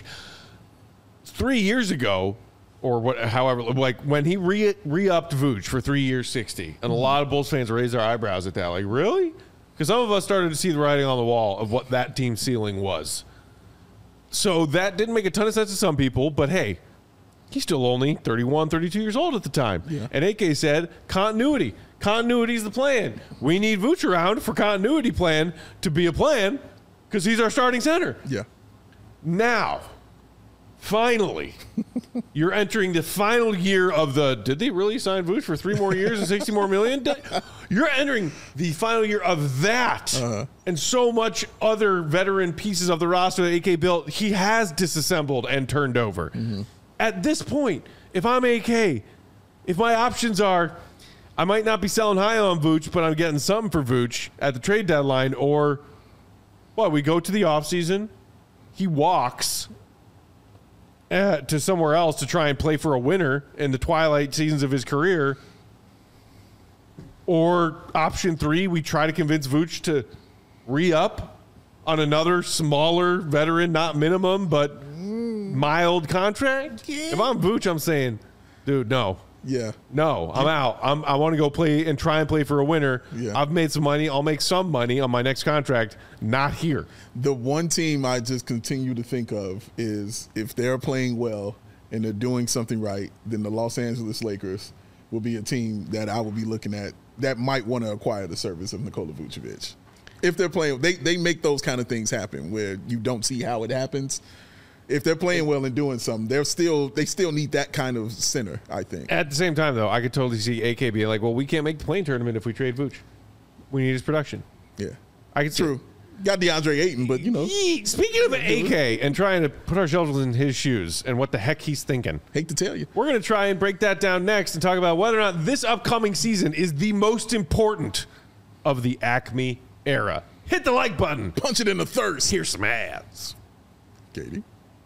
Three years ago. Or what? However, like when he re re-upped Vooch for three years, sixty, and a lot of Bulls fans raised their eyebrows at that. Like, really? Because some of us started to see the writing on the wall of what that team's ceiling was. So that didn't make a ton of sense to some people. But hey, he's still only thirty-one, thirty-two years old at the time.
Yeah.
And A K said, continuity. Continuity is the plan. We need Vooch around for continuity plan to be a plan because he's our starting center.
Yeah.
Now. Finally, you're entering the final year of the, did they really sign Vooch for three more years and sixty more million? You're entering the final year of that. Uh-huh. And so much other veteran pieces of the roster that A K built, he has disassembled and turned over. Mm-hmm. At this point, if I'm A K, if my options are, I might not be selling high on Vooch, but I'm getting something for Vooch at the trade deadline, or, well, we go to the offseason, he walks Uh, to somewhere else to try and play for a winner in the twilight seasons of his career. Or option three, we try to convince Vooch to re-up on another smaller veteran, not minimum, but mild contract. If I'm Vooch, I'm saying, dude, no.
Yeah.
No, I'm out. I'm, I want to go play and try and play for a winner.
Yeah.
I've made some money. I'll make some money on my next contract. Not here.
The one team I just continue to think of is if they're playing well and they're doing something right, then the Los Angeles Lakers will be a team that I will be looking at that might want to acquire the service of Nikola Vucevic. If they're playing, they, they make those kind of things happen where you don't see how it happens. If they're playing well and doing something, they're still they still need that kind of center, I think.
At the same time, though, I could totally see A K being like, well, we can't make the play-in tournament if we trade Vooch. We need his production.
Yeah.
I can see
True. Got DeAndre Ayton, but, you know.
Yee. Speaking of A K and trying to put ourselves in his shoes and what the heck he's thinking,
Hate to tell you.
we're going to try and break that down next and talk about whether or not this upcoming season is the most important of the Acme era. Hit the like button.
Punch it in the thirst.
Here's some ads.
Katie.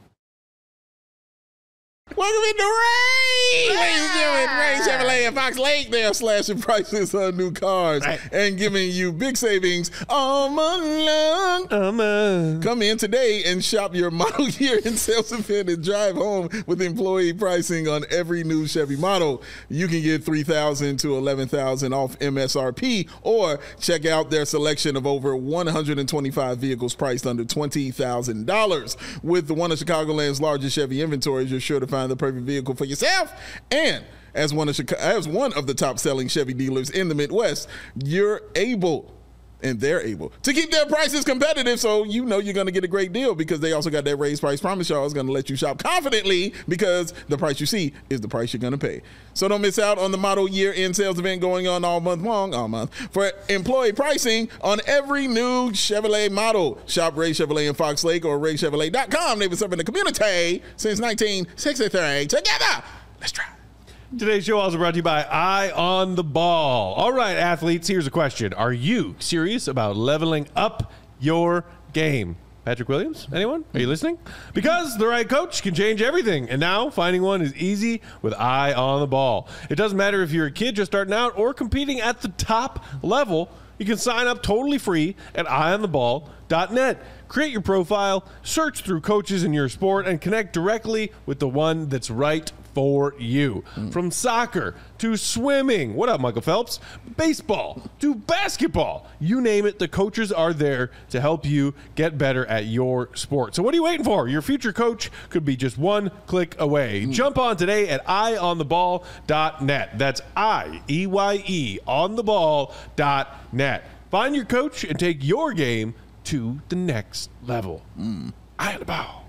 Welcome into Ray! Ladies and gentlemen, Ray Chevrolet and Fox Lake. They are slashing prices on new cars
Right.
and giving you big savings all month long.
Um, uh,
Come in today and shop your model year in sales event and drive home with employee pricing on every new Chevy model. You can get three thousand dollars to eleven thousand dollars off M S R P or check out their selection of over one hundred twenty-five vehicles priced under twenty thousand dollars. With one of Chicagoland's largest Chevy inventories, you're sure to find the perfect vehicle for yourself. And as one of Chicago, as one of the top-selling Chevy dealers in the Midwest, you're able, and they're able, to keep their prices competitive, so you know you're going to get a great deal because they also got that raised price promise. Y'all is going to let you shop confidently because the price you see is the price you're going to pay. So don't miss out on the model year-end sales event going on all month long, all month, for employee pricing on every new Chevrolet model. Shop Ray Chevrolet in Fox Lake or ray chevrolet dot com. They've been serving the community since nineteen sixty-three. Together, let's try.
Today's show also brought to you by Eye on the Ball. All right, athletes, here's a question. Are you serious about leveling up your game? Patrick Williams, anyone? Are you listening? Because the right coach can change everything. And now finding one is easy with Eye on the Ball. It doesn't matter if you're a kid just starting out or competing at the top level. You can sign up totally free at eye on the ball dot net. Create your profile, search through coaches in your sport, and connect directly with the one that's right for you. Mm. From soccer to swimming, what up, Michael Phelps? Baseball to basketball, you name it, the coaches are there to help you get better at your sport. So what are you waiting for? Your future coach could be just one click away. Mm. Jump on today at eye on the ball dot net. That's I E Y E on the ball dot net. Find your coach and take your game to the next level. Mm. Eye on the ball.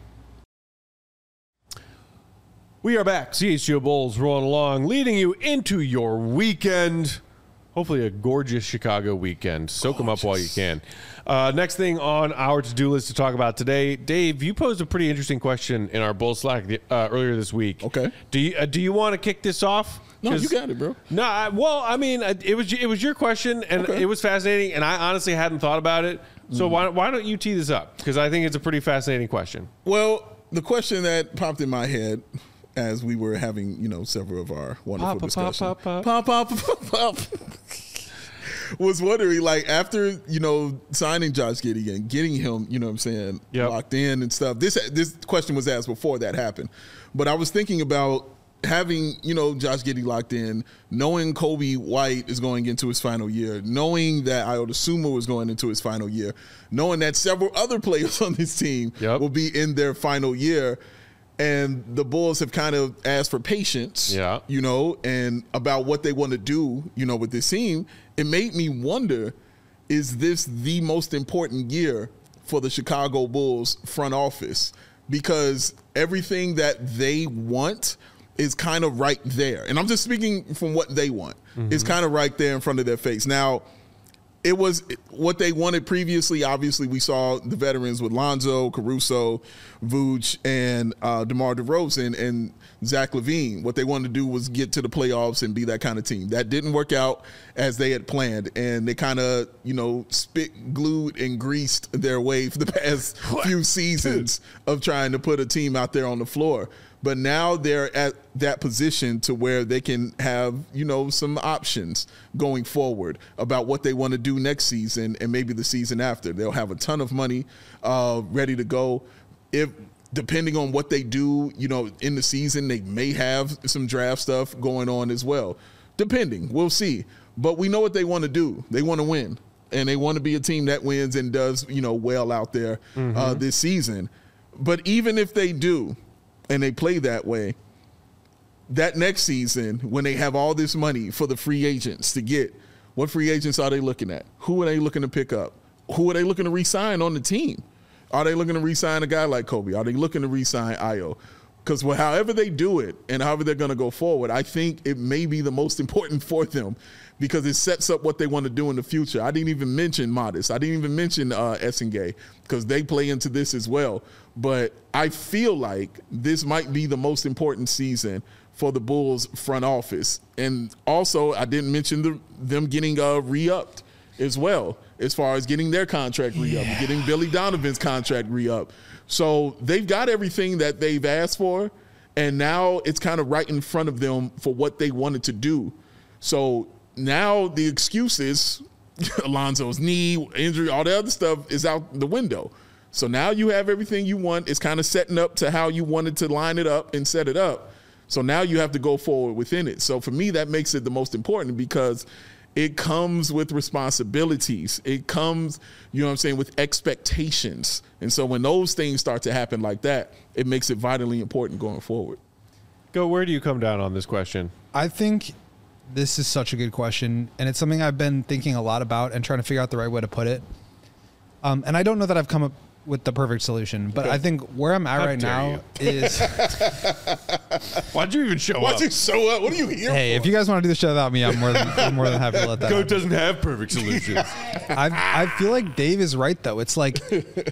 We are back. C H G O Bulls rolling along, leading you into your weekend. Hopefully a gorgeous Chicago weekend. Soak them up while you can. Uh, next thing on our to-do list to talk about today, Dave, you posed a pretty interesting question in our Bull Slack uh, earlier this week. Okay. Do you uh, do you want to kick this off?
No, you got it, bro.
No, I, well, I mean, it was it was your question, and okay. It was fascinating, and I honestly hadn't thought about it. So mm. why why don't you tee this up? Because I think it's a pretty fascinating question.
Well, the question that popped in my head as we were having, you know, several of our wonderful
pop,
discussions,
pop, pop,
pop, pop, pop, pop, pop. was wondering, like, after, you know, signing Josh Giddey and getting him, you know what I'm saying, yep. locked in and stuff. This this question was asked before that happened, but I was thinking about having, you know, Josh Giddey locked in, knowing Kobe White is going into his final year, knowing that Ayo Dosunmu is going into his final year, knowing that several other players on this team yep. will be in their final year. And the Bulls have kind of asked for patience, yeah. you know, and about what they want to do, you know, with this team. It made me wonder, is this the most important year for the Chicago Bulls front office? Because everything that they want is kind of right there. And I'm just speaking from what they want. Mm-hmm. It's kind of right there in front of their face. Now, it was what they wanted previously. Obviously, we saw the veterans with Lonzo, Caruso, Vooch, and uh, DeMar DeRozan and Zach LaVine. What they wanted to do was get to the playoffs and be that kind of team. That didn't work out as they had planned, and they kind of, you know, spit, glued, and greased their way for the past what? few seasons of trying to put a team out there on the floor. But now they're at that position to where they can have, you know, some options going forward about what they want to do next season and maybe the season after. They'll have a ton of money uh, ready to go. If depending on what they do, you know, in the season, they may have some draft stuff going on as well. Depending, we'll see. But we know what they want to do. They want to win, and they want to be a team that wins and does, you know, well out there mm-hmm. uh, this season. But even if they do, and they play that way, that next season, when they have all this money for the free agents to get, what free agents are they looking at? Who are they looking to pick up? Who are they looking to re-sign on the team? Are they looking to re-sign a guy like Kobe? Are they looking to re-sign Ayo? Because well, however they do it and however they're going to go forward, I think it may be the most important for them because it sets up what they want to do in the future. I didn't even mention Modest. I didn't even mention uh, Essengay because they play into this as well. But I feel like this might be the most important season for the Bulls front office. And also, I didn't mention the, them getting uh, re-upped as well, as far as getting their contract re-upped, yeah. getting Billy Donovan's contract re-upped. So they've got everything that they've asked for, and now it's kind of right in front of them for what they wanted to do. So now the excuses, Alonzo's knee, injury, all the other stuff is out the window. So now you have everything you want. It's kind of setting up to how you wanted to line it up and set it up. So now you have to go forward within it. So for me, that makes it the most important because it comes with responsibilities. It comes, you know what I'm saying, with expectations. And so when those things start to happen like that, it makes it vitally important going forward.
Go, where do you come down on this question?
I think this is such a good question, and it's something I've been thinking a lot about and trying to figure out the right way to put it. Um, and I don't know that I've come up with the perfect solution, but I think where I'm at
How
right now
you.
is
why'd you even show
Why'd
up?
you show up? What are you here
hey,
for?
if you guys want to do the show without me, I'm more than I'm more than happy to let that
Goat
happen.
doesn't have perfect solutions.
I I feel like Dave is right though. It's like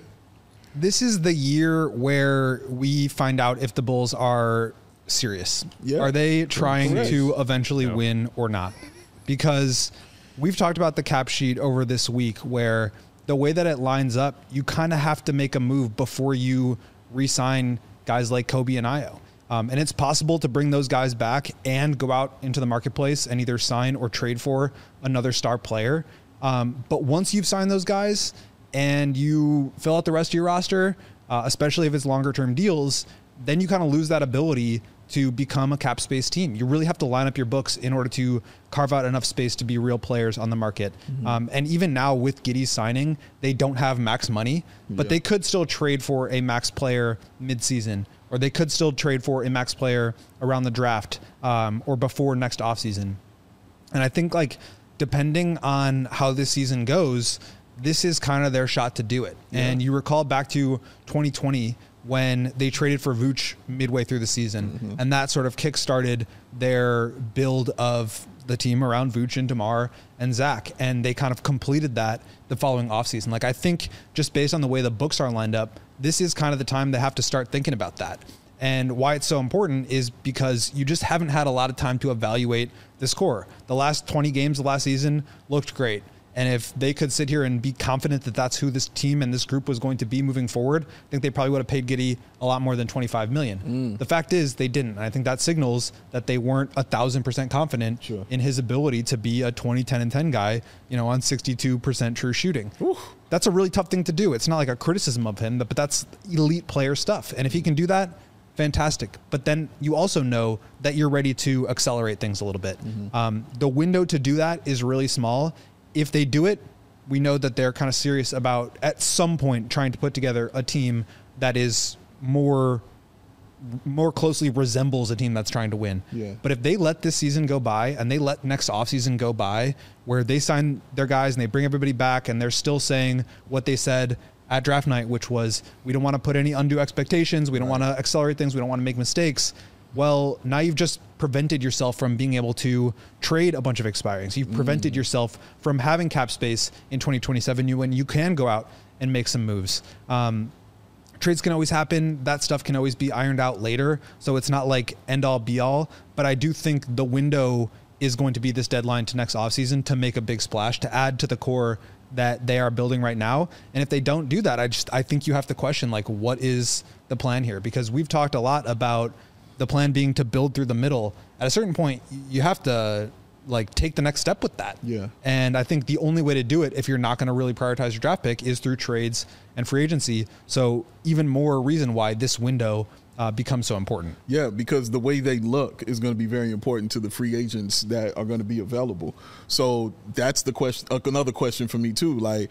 this is the year where we find out if the Bulls are serious.
Yeah.
Are they trying
Correct.
to eventually
No.
win or not? Because we've talked about the cap sheet over this week where the way that it lines up, you kind of have to make a move before you re-sign guys like Kobe and Ayo. Um, and it's possible to bring those guys back and go out into the marketplace and either sign or trade for another star player. Um, but once you've signed those guys and you fill out the rest of your roster, uh, especially if it's longer term deals, then you kind of lose that ability to become a cap space team. You really have to line up your books in order to carve out enough space to be real players on the market. Mm-hmm. Um, and even now with Giddey's signing, they don't have max money, but
yeah.
they could still trade for a max player mid-season, or they could still trade for a max player around the draft um, or before next offseason. And I think like depending on how this season goes, this is kind of their shot to do it. Yeah. And you recall back to twenty twenty when they traded for Vooch midway through the season. Mm-hmm. And that sort of kickstarted their build of the team around Vooch and DeMar and Zach. And they kind of completed that the following offseason. Like, I think just based on the way the books are lined up, this is kind of the time they have to start thinking about that. And why it's so important is because you just haven't had a lot of time to evaluate this core. The last twenty games of last season looked great. And if they could sit here and be confident that that's who this team and this group was going to be moving forward, I think they probably would have paid Giddey a lot more than twenty-five million dollars. Mm. The fact is they didn't. And I think that signals that they weren't a thousand percent confident sure. in his ability to be a twenty, ten, and ten guy, you know, on sixty-two percent true shooting. Oof. That's a really tough thing to do. It's not like a criticism of him, but that's elite player stuff. And if he can do that, fantastic. But then you also know that you're ready to accelerate things a little bit. Mm-hmm. Um, the window to do that is really small. If they do it, we know that they're kind of serious about at some point trying to put together a team that is more more closely resembles a team that's trying to win.
Yeah.
But if they let this season go by and they let next offseason go by where they sign their guys and they bring everybody back and they're still saying what they said at draft night, which was we don't want to put any undue expectations. We don't right. want to accelerate things. We don't want to make mistakes. Well, now you've just prevented yourself from being able to trade a bunch of expirings. You've prevented mm. yourself from having cap space in twenty twenty-seven you, when you can go out and make some moves. Um, trades can always happen. That stuff can always be ironed out later. So it's not like end all be all. But I do think the window is going to be this deadline to next offseason to make a big splash, to add to the core that they are building right now. And if they don't do that, I just I think you have to question, like, what is the plan here? Because we've talked a lot about the plan being to build through the middle. At a certain point, you have to like take the next step with that.
Yeah.
And I think the only way to do it, if you're not going to really prioritize your draft pick, is through trades and free agency. So even more reason why this window uh, becomes so important.
Yeah, because the way they look is going to be very important to the free agents that are going to be available. So that's the question. Uh, another question for me too. Like,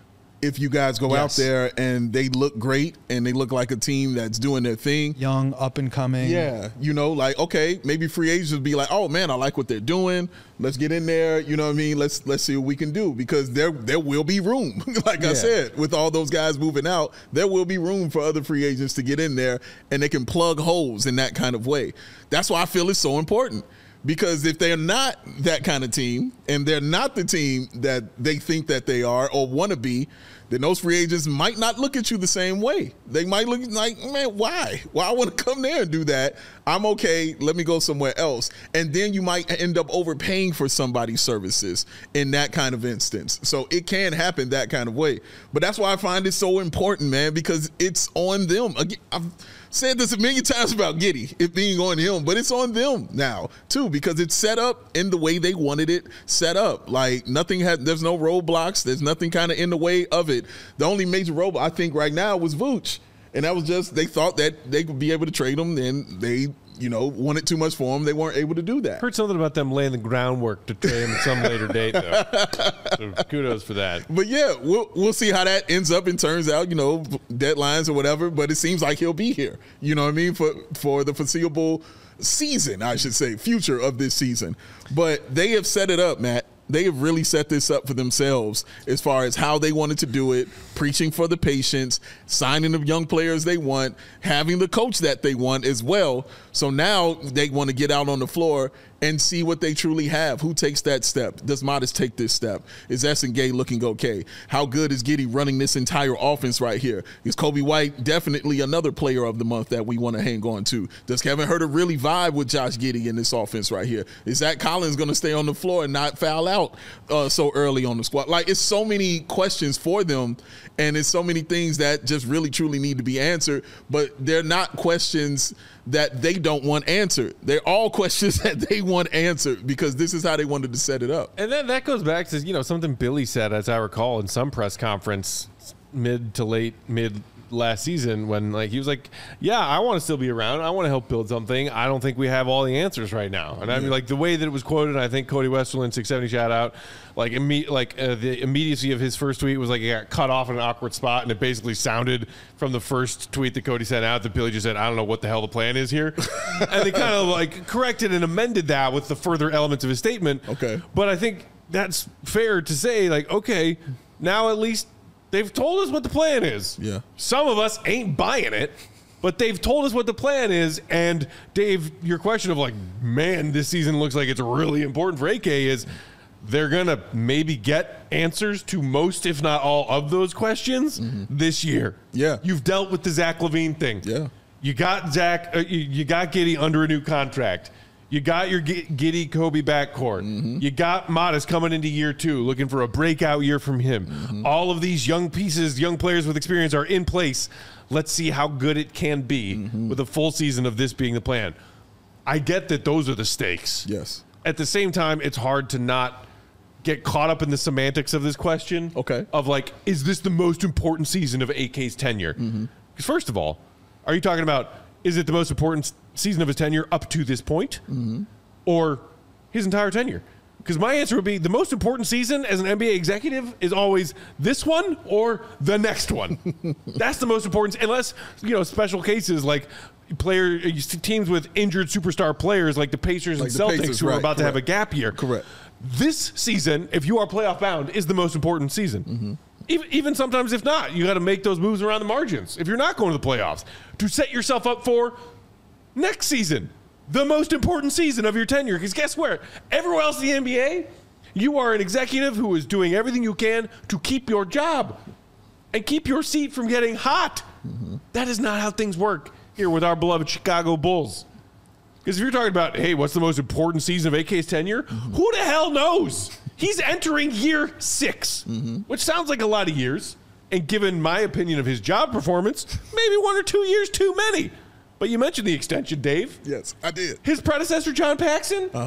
if you guys go
Yes.
out there and they look great and they look like a team that's doing their thing.
Young, up and coming.
Yeah, you know, like, okay, maybe free agents would be like, oh man, I like what they're doing. Let's get in there. You know what I mean? Let's let's see what we can do, because there there will be room. Like
Yeah.
I said, with all those guys moving out, there will be room for other free agents to get in there, and they can plug holes in that kind of way. That's why I feel it's so important. Because if they're not that kind of team, and they're not the team that they think that they are or want to be, then those free agents might not look at you the same way. They might look like, man, why? Why I want to come there and do that? I'm okay. Let me go somewhere else. And then you might end up overpaying for somebody's services in that kind of instance. So it can happen that kind of way. But that's why I find it so important, man, because it's on them. Again, I've said this a million times about Giddey, it being on him, but it's on them now too, because it's set up in the way they wanted it set up. Like nothing had, there's no roadblocks. There's nothing kind of in the way of it. The only major roadblock I think right now was Vooch. And that was just, they thought that they could be able to trade him, and they, you know, wanted too much for him. They weren't able to do that.
Heard something about them laying the groundwork to trade him at some later date, though. So kudos for that.
But yeah, we'll we'll see how that ends up and turns out, you know, deadlines or whatever. But it seems like he'll be here. You know what I mean? For for the foreseeable season, I should say, future of this season. But they have set it up, Matt. They have really set this up for themselves as far as how they wanted to do it, preaching for the patience, signing the young players they want, having the coach that they want as well. So now they want to get out on the floor and see what they truly have. Who takes that step? Does Modest take this step? Is Esson Gay looking okay? How good is Giddey running this entire offense right here? Is Kobe White definitely another player of the month that we want to hang on to? Does Kevin Huerter really vibe with Josh Giddey in this offense right here? Is Zach Collins going to stay on the floor and not foul out uh, so early on the squad? Like, it's so many questions for them, and it's so many things that just really truly need to be answered, but they're not questions that they don't want answered. They're all questions that they want answered, because this is how they wanted to set it up.
And then that goes back to, you know, something Billy said, as I recall, in some press conference mid to late mid last season, when like he was like, yeah, I want to still be around. I want to help build something. I don't think we have all the answers right now. And I mean, like the way that it was quoted, I think Cody Westerland, six seventy shout out, like imme- like uh, the immediacy of his first tweet was like he got cut off in an awkward spot, and it basically sounded from the first tweet that Cody sent out that Billy just said, I don't know what the hell the plan is here. And they kind of like corrected and amended that with the further elements of his statement.
Okay.
But I think that's fair to say, like, okay, now at least they've told us what the plan is.
Yeah.
Some of us ain't buying it, but they've told us what the plan is. And Dave, your question of like, man, this season looks like it's really important for A K is they're going to maybe get answers to most, if not all, of those questions mm-hmm. this year.
Yeah.
You've dealt with the Zach LaVine thing.
Yeah.
You got Zach, uh, you, you got Giddey under a new contract. You got your G- Giddey Kobe backcourt. Mm-hmm. You got Modest coming into year two, looking for a breakout year from him. Mm-hmm. All of these young pieces, young players with experience are in place. Let's see how good it can be mm-hmm. with a full season of this being the plan. I get that those are the stakes.
Yes.
At the same time, it's hard to not get caught up in the semantics of this question.
Okay.
Of like, is this the most important season of A K's tenure? Because mm-hmm. first of all, are you talking about, is it the most important season of his tenure up to this point, mm-hmm. or his entire tenure? Because my answer would be the most important season as an N B A executive is always this one or the next one. That's the most important, unless, you know, special cases like player teams with injured superstar players like the Pacers
like
and
the
Celtics
Pacers,
who
right,
are about
correct.
to have a gap year.
Correct.
This season, if you are playoff bound, is the most important season. Mm-hmm. Even, even sometimes if not, you got to make those moves around the margins. If you're not going to the playoffs, to set yourself up for next season, the most important season of your tenure. Because guess where? Everywhere else in the N B A, you are an executive who is doing everything you can to keep your job and keep your seat from getting hot. Mm-hmm. That is not how things work here with our beloved Chicago Bulls. Because if you're talking about, hey, what's the most important season of A K's tenure? Mm-hmm. Who the hell knows? He's entering year six, mm-hmm. which sounds like a lot of years. And given my opinion of his job performance, maybe one or two years too many. But you mentioned the extension, Dave.
Yes, I did.
His predecessor, John Paxson, uh-huh.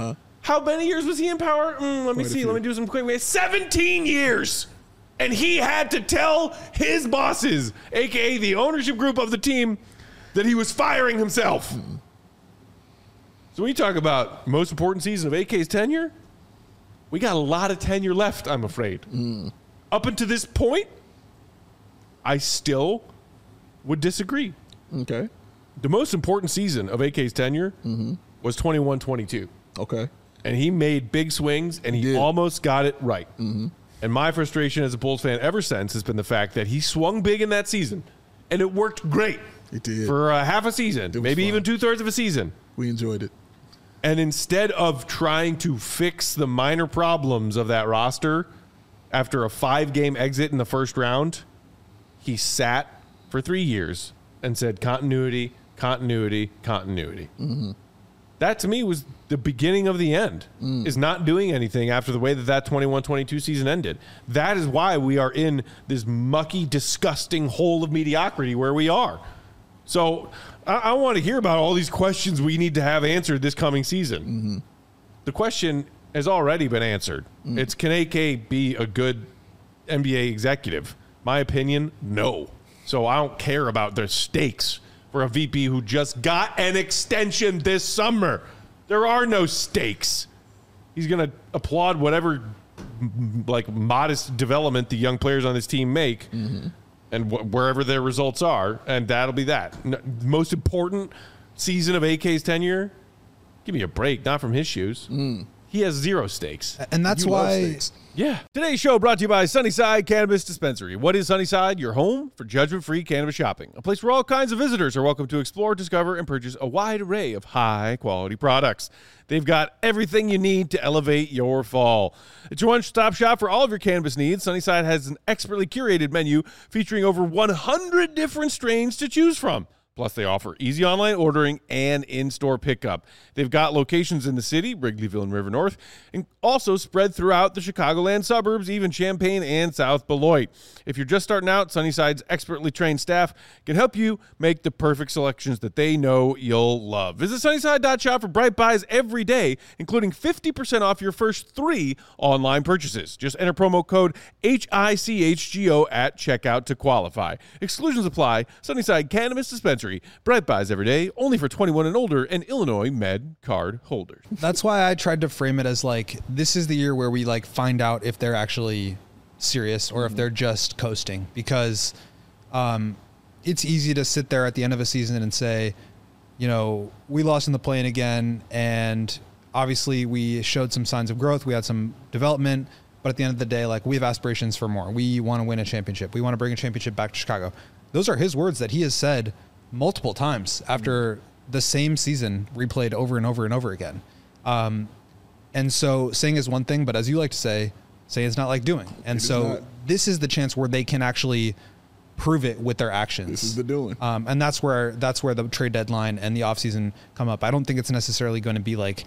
How many years was he in power? Mm, let me
Quite a
see.
few.
Let me do some quick math. seventeen years. And he had to tell his bosses, a k a the ownership group of the team, that he was firing himself. Mm. So when you talk about most important season of A K's tenure, we got a lot of tenure left, I'm afraid. Mm. Up until this point, I still would disagree.
Okay.
The most important season of A K's tenure mm-hmm. was twenty-one twenty-two.
Okay.
And he made big swings, and he, he almost got it right. Mm-hmm. And my frustration as a Bulls fan ever since has been the fact that he swung big in that season, and it worked great.
It did.
For uh, half a season, maybe fun. even two-thirds of a season.
We enjoyed it.
And instead of trying to fix the minor problems of that roster after a five-game exit in the first round, he sat for three years and said continuity, continuity, continuity. Mm-hmm. That, to me, was the beginning of the end, mm. is not doing anything after the way that that twenty-one twenty-two season ended. That is why we are in this mucky, disgusting hole of mediocrity where we are. So I, I want to hear about all these questions we need to have answered this coming season. Mm-hmm. The question has already been answered. Mm. It's, can A K be a good N B A executive? My opinion, no. So I don't care about the stakes for a V P who just got an extension this summer. There are no stakes. He's going to applaud whatever like modest development the young players on this team make. Mm-hmm. And wh- wherever their results are, and that'll be that. N- most important season of A K's tenure? Give me a break, not from his shoes. Mm. He has zero stakes.
And that's
you
why...
Yeah. Today's show brought to you by Sunnyside Cannabis Dispensary. What is Sunnyside? Your home for judgment-free cannabis shopping. A place where all kinds of visitors are welcome to explore, discover, and purchase a wide array of high-quality products. They've got everything you need to elevate your fall. It's your one-stop shop for all of your cannabis needs. Sunnyside has an expertly curated menu featuring over one hundred different strains to choose from. Plus, they offer easy online ordering and in-store pickup. They've got locations in the city, Wrigleyville and River North, and also spread throughout the Chicagoland suburbs, even Champaign and South Beloit. If you're just starting out, Sunnyside's expertly trained staff can help you make the perfect selections that they know you'll love. Visit Sunnyside dot shop for bright buys every day, including fifty percent off your first three online purchases. Just enter promo code H I C H G O at checkout to qualify. Exclusions apply. Sunnyside Cannabis Dispensary. Bright buys every day, only for twenty-one and older and Illinois Med card holders.
That's why I tried to frame it as like, this is the year where we like find out if they're actually serious or if they're just coasting, because um, it's easy to sit there at the end of a season and say, you know, we lost in the play-in again, and obviously we showed some signs of growth. We had some development, but at the end of the day, like, we have aspirations for more. We want to win a championship. We want to bring a championship back to Chicago. Those are his words that he has said multiple times after the same season replayed over and over and over again. Um, and so saying is one thing, but as you like to say, saying is not like doing. And so this is the chance where they can actually prove it with their actions.
This is the doing.
Um, and that's where, that's where the trade deadline and the offseason come up. I don't think it's necessarily going to be like,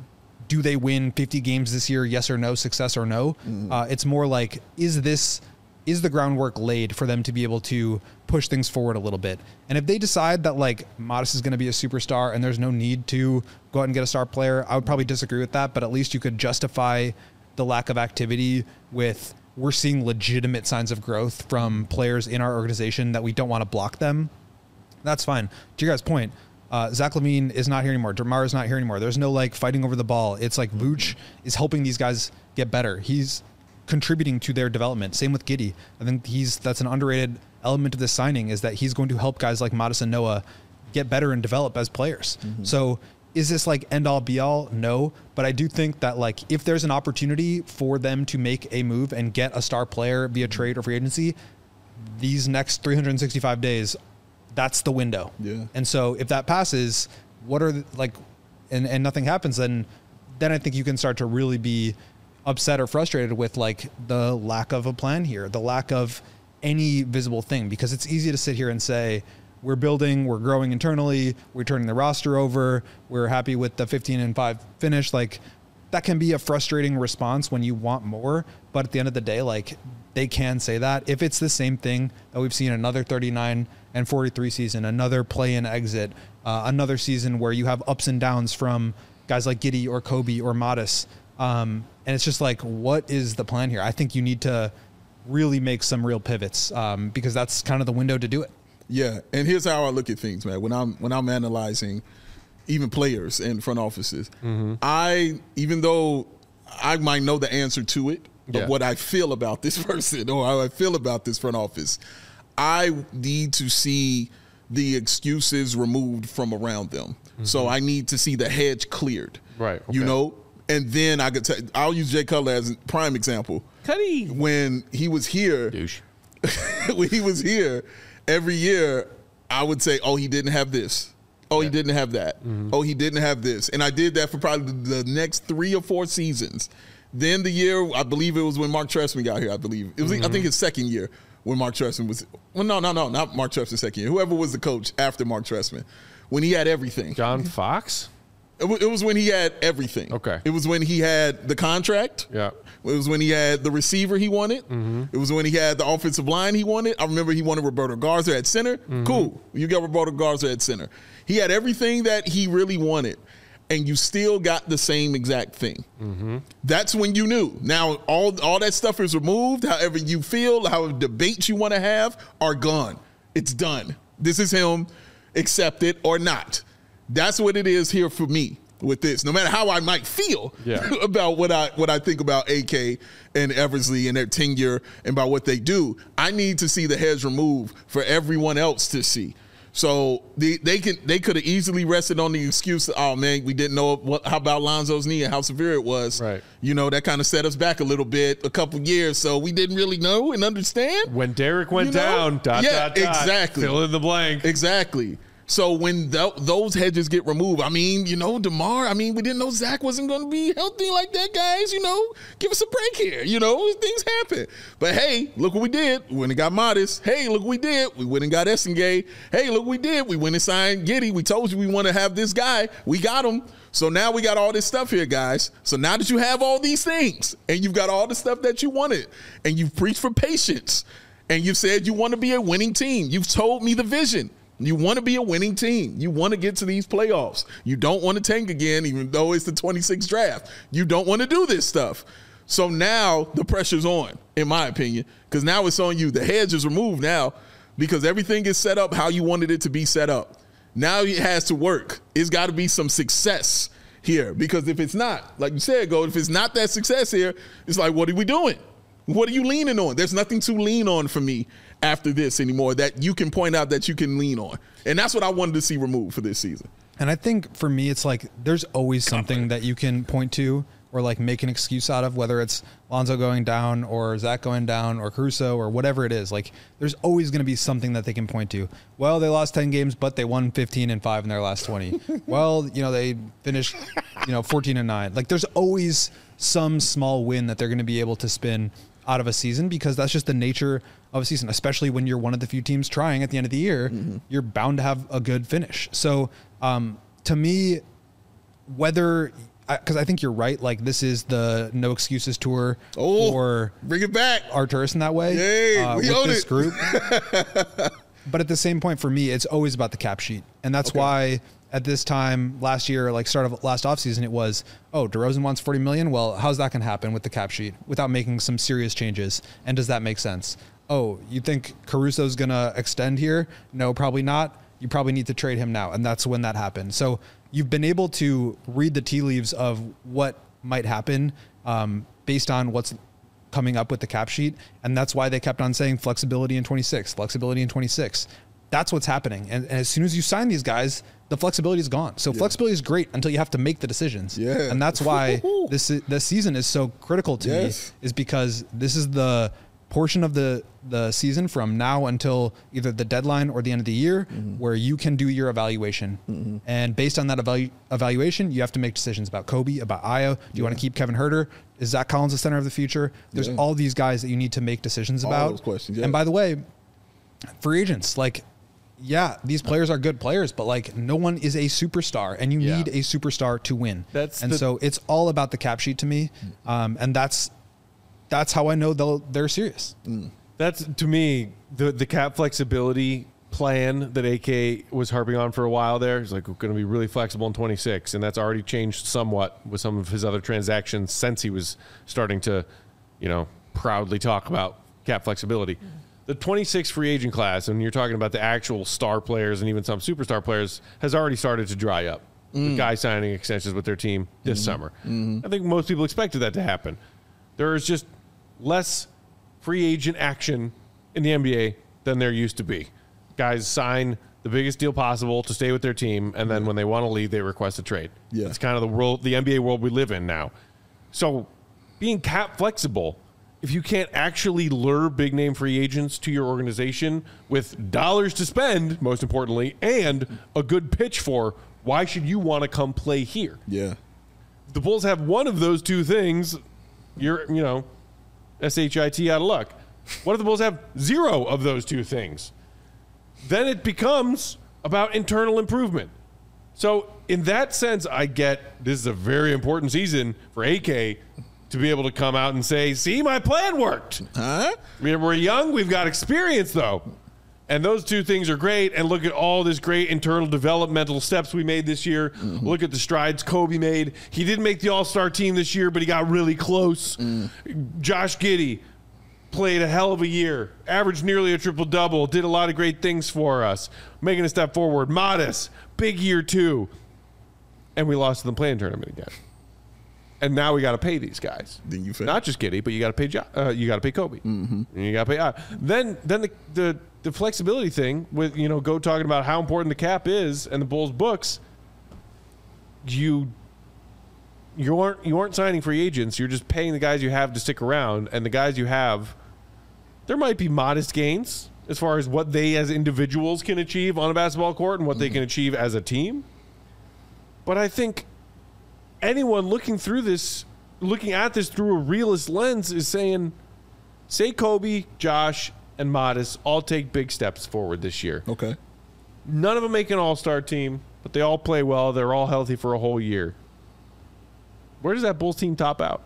do they win fifty games this year? Yes or no, success or no. Mm. Uh, it's more like, is this, is the groundwork laid for them to be able to push things forward a little bit? And if they decide that like Modest is going to be a superstar and there's no need to go out and get a star player, I would probably disagree with that, but at least you could justify the lack of activity with, we're seeing legitimate signs of growth from players in our organization that we don't want to block them. That's fine. To your guys' point, uh, Zach LaVine is not here anymore. DeMar is not here anymore. There's no like fighting over the ball. It's like Vooch is helping these guys get better. He's contributing to their development. Same with Giddey. I think he's that's an underrated element of this signing, is that he's going to help guys like Modest and Noah get better and develop as players. Mm-hmm. So is this like end all be all? No, but I do think that like if there's an opportunity for them to make a move and get a star player via trade or free agency, these next three hundred sixty-five days, that's the window.
Yeah.
And so if that passes, what are the, like, and, and nothing happens, then then I think you can start to really be upset or frustrated with like the lack of a plan here, the lack of any visible thing, because it's easy to sit here and say, we're building, we're growing internally, we're turning the roster over, we're happy with the fifteen and five finish. Like, that can be a frustrating response when you want more, but at the end of the day, like, they can say that. If it's the same thing that we've seen another thirty-nine and forty-three season, another play-in exit, uh, another season where you have ups and downs from guys like Giddey or Kobe or Modis. Um, and it's just like, what is the plan here? I think you need to really make some real pivots um, because that's kind of the window to do it.
Yeah, and here's how I look at things, man. When I'm when I'm analyzing even players in front offices, mm-hmm. I even though I might know the answer to it, but yeah. what I feel about this person or how I feel about this front office, I need to see the excuses removed from around them. Mm-hmm. So I need to see the hedge cleared.
Right. Okay.
You know, and then I could tell. I'll use Jay Cutler as a prime example.
Cuddy.
When he was here,
douche.
when he was here. Every year, I would say, oh, he didn't have this. Oh, yeah. he didn't have that. Mm-hmm. Oh, he didn't have this. And I did that for probably the next three or four seasons. Then the year, I believe it was when Mark Trestman got here, I believe. It was, mm-hmm. I think, his second year when Mark Trestman was – well, no, no, no, not Mark Trestman's second year. Whoever was the coach after Mark Trestman, when he had everything.
John Fox?
It, w- it was when he had everything.
Okay.
It was when he had the contract.
Yeah.
It was when he had the receiver he wanted.
Mm-hmm.
It was when he had the offensive line he wanted. I remember he wanted Roberto Garza at center. Mm-hmm. Cool. You got Roberto Garza at center. He had everything that he really wanted, and you still got the same exact thing. Mm-hmm. That's when you knew. Now, all, all that stuff is removed. However you feel, however debates you want to have are gone. It's done. This is him. Accept it or not. That's what it is here for me with this. No matter how I might feel
yeah.
about what I what I think about A K and Eversley and their tenure and about what they do, I need to see the hedge removed for everyone else to see. So they, they can they could have easily rested on the excuse, oh man, we didn't know what how about Lonzo's knee and how severe it was.
Right.
You know, that kind of set us back a little bit, a couple years, so we didn't really know and understand.
When Derek went
you know?
down, dot,
yeah,
dot, dot,
exactly.
fill in the blank.
Exactly. So when th- those hedges get removed, I mean, you know, DeMar, I mean, we didn't know Zach wasn't going to be healthy like that, guys. You know, give us a break here. You know, things happen. But, hey, look what we did. We went and got Modis. Hey, look what we did. We went and got Essengay. Hey, look what we did. We went and signed Giddey. We told you we want to have this guy. We got him. So now we got all this stuff here, guys. So now that you have all these things and you've got all the stuff that you wanted and you've preached for patience and you've said you want to be a winning team, you've told me the vision. You want to be a winning team. You want to get to these playoffs. You don't want to tank again, even though it's the twenty-sixth draft. You don't want to do this stuff. So now the pressure's on, in my opinion, because now it's on you. The hedge is removed now because everything is set up how you wanted it to be set up. Now it has to work. It's got to be some success here because if it's not, like you said, Go, if it's not that success here, it's like, what are we doing? What are you leaning on? There's nothing to lean on for me after this anymore that you can point out that you can lean on. And that's what I wanted to see removed for this season.
And I think for me, it's like there's always something that you can point to or like make an excuse out of, whether it's Lonzo going down or Zach going down or Caruso or whatever it is. Like there's always going to be something that they can point to. Well, they lost ten games, but they won fifteen and five in their last twenty. Well, you know, they finished, you know, fourteen and nine. Like there's always some small win that they're going to be able to spin out of a season because that's just the nature of a season, especially when you're one of the few teams trying at the end of the year. Mm-hmm. You're bound to have a good finish. So um, to me, whether because I, I think you're right, like this is the no excuses tour
oh,
for
bring it back
Arturas in that way.
Yay,
uh,
we
with
own
this
it.
group. But at the same point, for me, it's always about the cap sheet, and that's
okay.
why at this time last year, like start of last offseason, it was, oh, DeRozan wants forty million. Well, how's that going to happen with the cap sheet without making some serious changes? And does that make sense? Oh, you think Caruso's going to extend here? No, probably not. You probably need to trade him now. And that's when that happened. So you've been able to read the tea leaves of what might happen um, based on what's coming up with the cap sheet. And that's why they kept on saying flexibility in twenty-six, flexibility in twenty-six. That's what's happening. And, and as soon as you sign these guys, the flexibility is gone. So yeah. flexibility is great until you have to make the decisions.
Yeah.
And that's why this this season is so critical to
yes.
me, is because this is the portion of the, the season from now until either the deadline or the end of the year mm-hmm. where you can do your evaluation. Mm-hmm. And based on that evalu- evaluation, you have to make decisions about Kobe, about Ayo. Do you yeah. want to keep Kevin Huerter? Is Zach Collins the center of the future? There's yeah. all these guys that you need to make decisions
all
about.
Those questions, yeah.
And by the way, free agents, like, yeah, these players are good players, but like no one is a superstar, and you yeah. need a superstar to win.
That's
and
the,
so it's all about the cap sheet to me, um, and that's that's how I know they'll they're serious.
Mm. That's to me the the cap flexibility plan that A K was harping on for a while there. He's like, we're going to be really flexible in twenty-six, and that's already changed somewhat with some of his other transactions since he was starting to, you know, proudly talk about cap flexibility. Mm-hmm. The twenty-six free agent class, and you're talking about the actual star players and even some superstar players, has already started to dry up. Mm. With guys signing extensions with their team this mm-hmm. summer. Mm-hmm. I think most people expected that to happen. There is just less free agent action in the N B A than there used to be. Guys sign the biggest deal possible to stay with their team, and then when they want to leave, they request a trade. Yeah. It's kind of the world, the N B A world we live in now. So being cap flexible, if you can't actually lure big name free agents to your organization with dollars to spend, most importantly, and a good pitch for why should you want to come play here?
Yeah.
If the Bulls have one of those two things, you're, you know, S H I T out of luck. What if the Bulls have zero of those two things? Then it becomes about internal improvement. So in that sense, I get this is a very important season for A K to be able to come out and say, see, my plan worked.
Huh?
We're young. We've got experience, though. And those two things are great. And look at all this great internal developmental steps we made this year. Mm-hmm. Look at the strides Kobe made. He didn't make the all-star team this year, but he got really close. Mm. Josh Giddey played a hell of a year, averaged nearly a triple-double, did a lot of great things for us, making a step forward. Modest, big year too. And we lost in the play-in tournament again. And now we got to pay these guys.
Then you
Not just Giddey, but you got to pay. Uh, you got to pay Kobe.
Mm-hmm.
And you got to pay. Uh, then, then the, the the flexibility thing with you know go talking about how important the cap is and the Bulls books. You you aren't you aren't signing free agents. You're just paying the guys you have to stick around, and the guys you have. There might be modest gains as far as what they as individuals can achieve on a basketball court and what mm-hmm. they can achieve as a team. But I think anyone looking through this, looking at this through a realist lens is saying, say Kobe, Josh, and Modest all take big steps forward this year.
Okay.
None of them make an all-star team, but they all play well. They're all healthy for a whole year. Where does that Bulls team top out?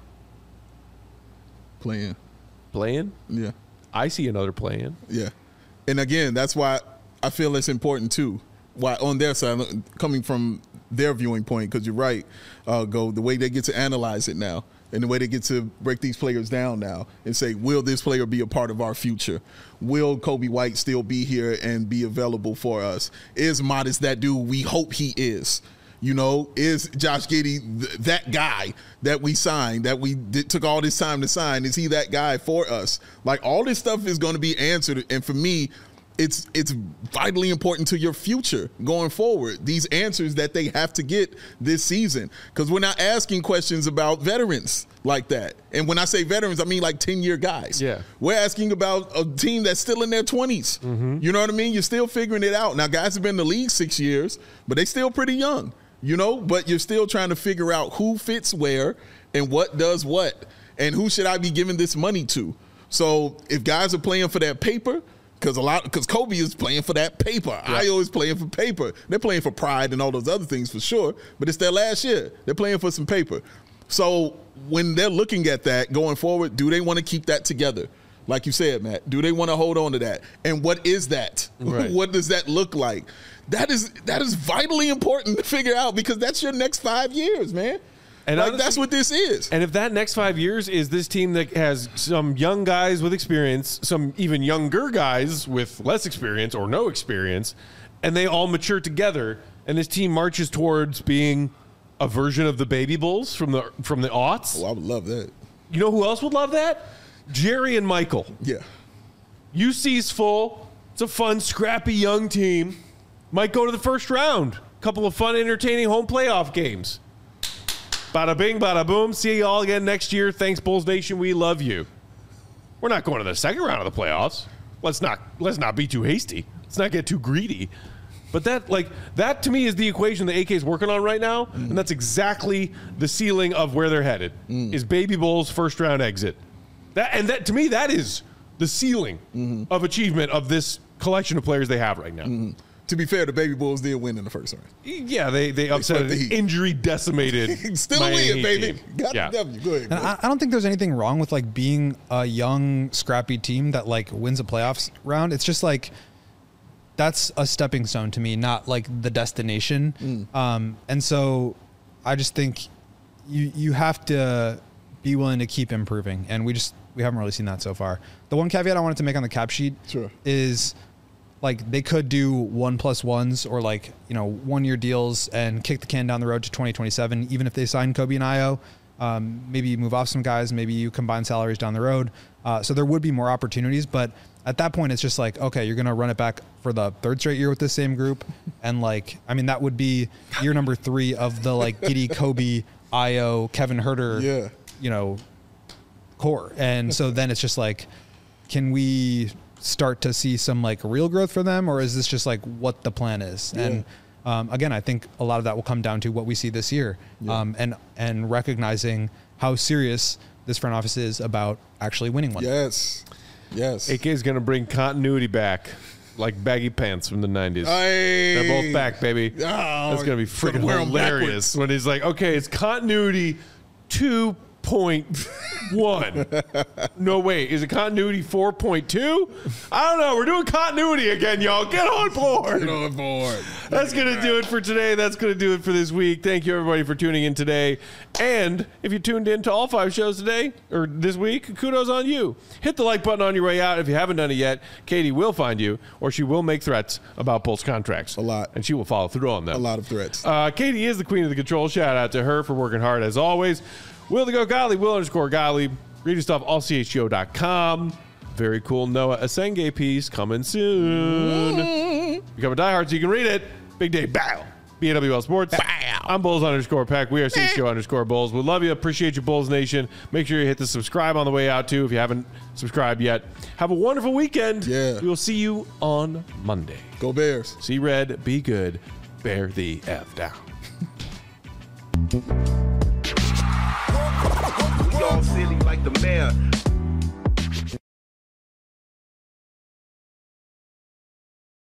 Play-in.
Play-in?
Yeah.
I see another play-in.
Yeah. And again, that's why I feel it's important too. Why on their side, coming from their viewing point, because you're right, uh, Go, the way they get to analyze it now and the way they get to break these players down now and say, will this player be a part of our future? Will Kobe White still be here and be available for us? Is Modest that dude we hope he is? You know, is Josh Giddey th- that guy that we signed, that we did, took all this time to sign? Is he that guy for us? Like, all this stuff is going to be answered. And for me, it's it's vitally important to your future going forward, these answers that they have to get this season. Because we're not asking questions about veterans like that. And when I say veterans, I mean like ten-year guys.
Yeah.
We're asking about a team that's still in their twenties. Mm-hmm. You know what I mean? You're still figuring it out. Now, guys have been in the league six years, but they still pretty young. You know, but you're still trying to figure out who fits where and what does what and who should I be giving this money to. So if guys are playing for that paper, because a lot, because Kobe is playing for that paper. Yeah. I always playing for paper. They're playing for pride and all those other things for sure, but it's their last year. They're playing for some paper. So when they're looking at that going forward, do they want to keep that together? Like you said, Matt, do they want to hold on to that? And what is that? Right. What does that look like? That is that is vitally important to figure out, because that's your next five years, man. And like, honestly, that's what this is.
And if that next five years is this team that has some young guys with experience, some even younger guys with less experience or no experience, and they all mature together, and this team marches towards being a version of the Baby Bulls from the from the aughts.
Oh, I would love that.
You know who else would love that? Jerry and Michael.
Yeah.
U C's full. It's a fun, scrappy young team. Might go to the first round. Couple of fun, entertaining home playoff games. Bada bing, bada boom. See you all again next year. Thanks, Bulls Nation. We love you. We're not going to the second round of the playoffs. Let's not let's not be too hasty. Let's not get too greedy. But that, like, that to me is the equation that A K is working on right now, mm. and that's exactly the ceiling of where they're headed. Mm. Is Baby Bulls first round exit. That and that to me, that is the ceiling mm-hmm. of achievement of this collection of players they have right now.
Mm-hmm. To be fair, the Baby Bulls did win in the first round.
Yeah, they they upset an injury decimated.
Still a win, baby.
Team.
Got
yeah.
the W. Go ahead.
And I, I don't think there's anything wrong with like being a young, scrappy team that like wins a playoffs round. It's just like that's a stepping stone to me, not like the destination. Mm. Um, and so I just think you you have to be willing to keep improving, and we just we haven't really seen that so far. The one caveat I wanted to make on the cap sheet
sure.
is like they could do one plus ones or like, you know, one year deals and kick the can down the road to twenty twenty-seven, even if they sign Kobe and Io. Um, maybe you move off some guys, maybe you combine salaries down the road. Uh, so there would be more opportunities, but at that point it's just like, okay, you're going to run it back for the third straight year with this same group. And like, I mean, that would be year number three of the like Giddey, Kobe, Io, Kevin Huerter,
yeah.
you know, core. And so then it's just like, can we start to see some like real growth for them, or is this just like what the plan is? Yeah. And um, again, I think a lot of that will come down to what we see this year, yeah. um, and and recognizing how serious this front office is about actually winning one.
Yes, yes.
A K is going to bring continuity back, like baggy pants from the nineties.
Hey.
They're both back, baby.
Oh,
That's going to be freaking hilarious when he's like, okay, it's continuity two point one. No, wait, is it continuity four point two? I don't know. We're doing continuity again, y'all. Get on board.
Get on board.
That's going to do it for today. That's going to do it for this week. Thank you, everybody, for tuning in today. And if you tuned in to all five shows today or this week, kudos on you. Hit the like button on your way out. If you haven't done it yet, Katie will find you, or she will make threats about Bulls contracts.
A lot.
And she will follow through on them.
A lot of threats.
Uh, Katie is the queen of the control. Shout out to her for working hard as always. Will the Go Golly, Will underscore Golly. Read your stuff, all c h g o dot com. Very cool Noah Asenge piece coming soon. Mm-hmm. Become a diehard so you can read it. Big day, bow. B A W L Sports. Bow. I'm Bulls underscore Pack. We are C H G O underscore Bulls. We love you. Appreciate you, Bulls Nation. Make sure you hit the subscribe on the way out, too, if you haven't subscribed yet. Have a wonderful weekend.
Yeah.
We will see you on Monday.
Go Bears.
See red, be good, bear the F down.
We all silly like the mayor.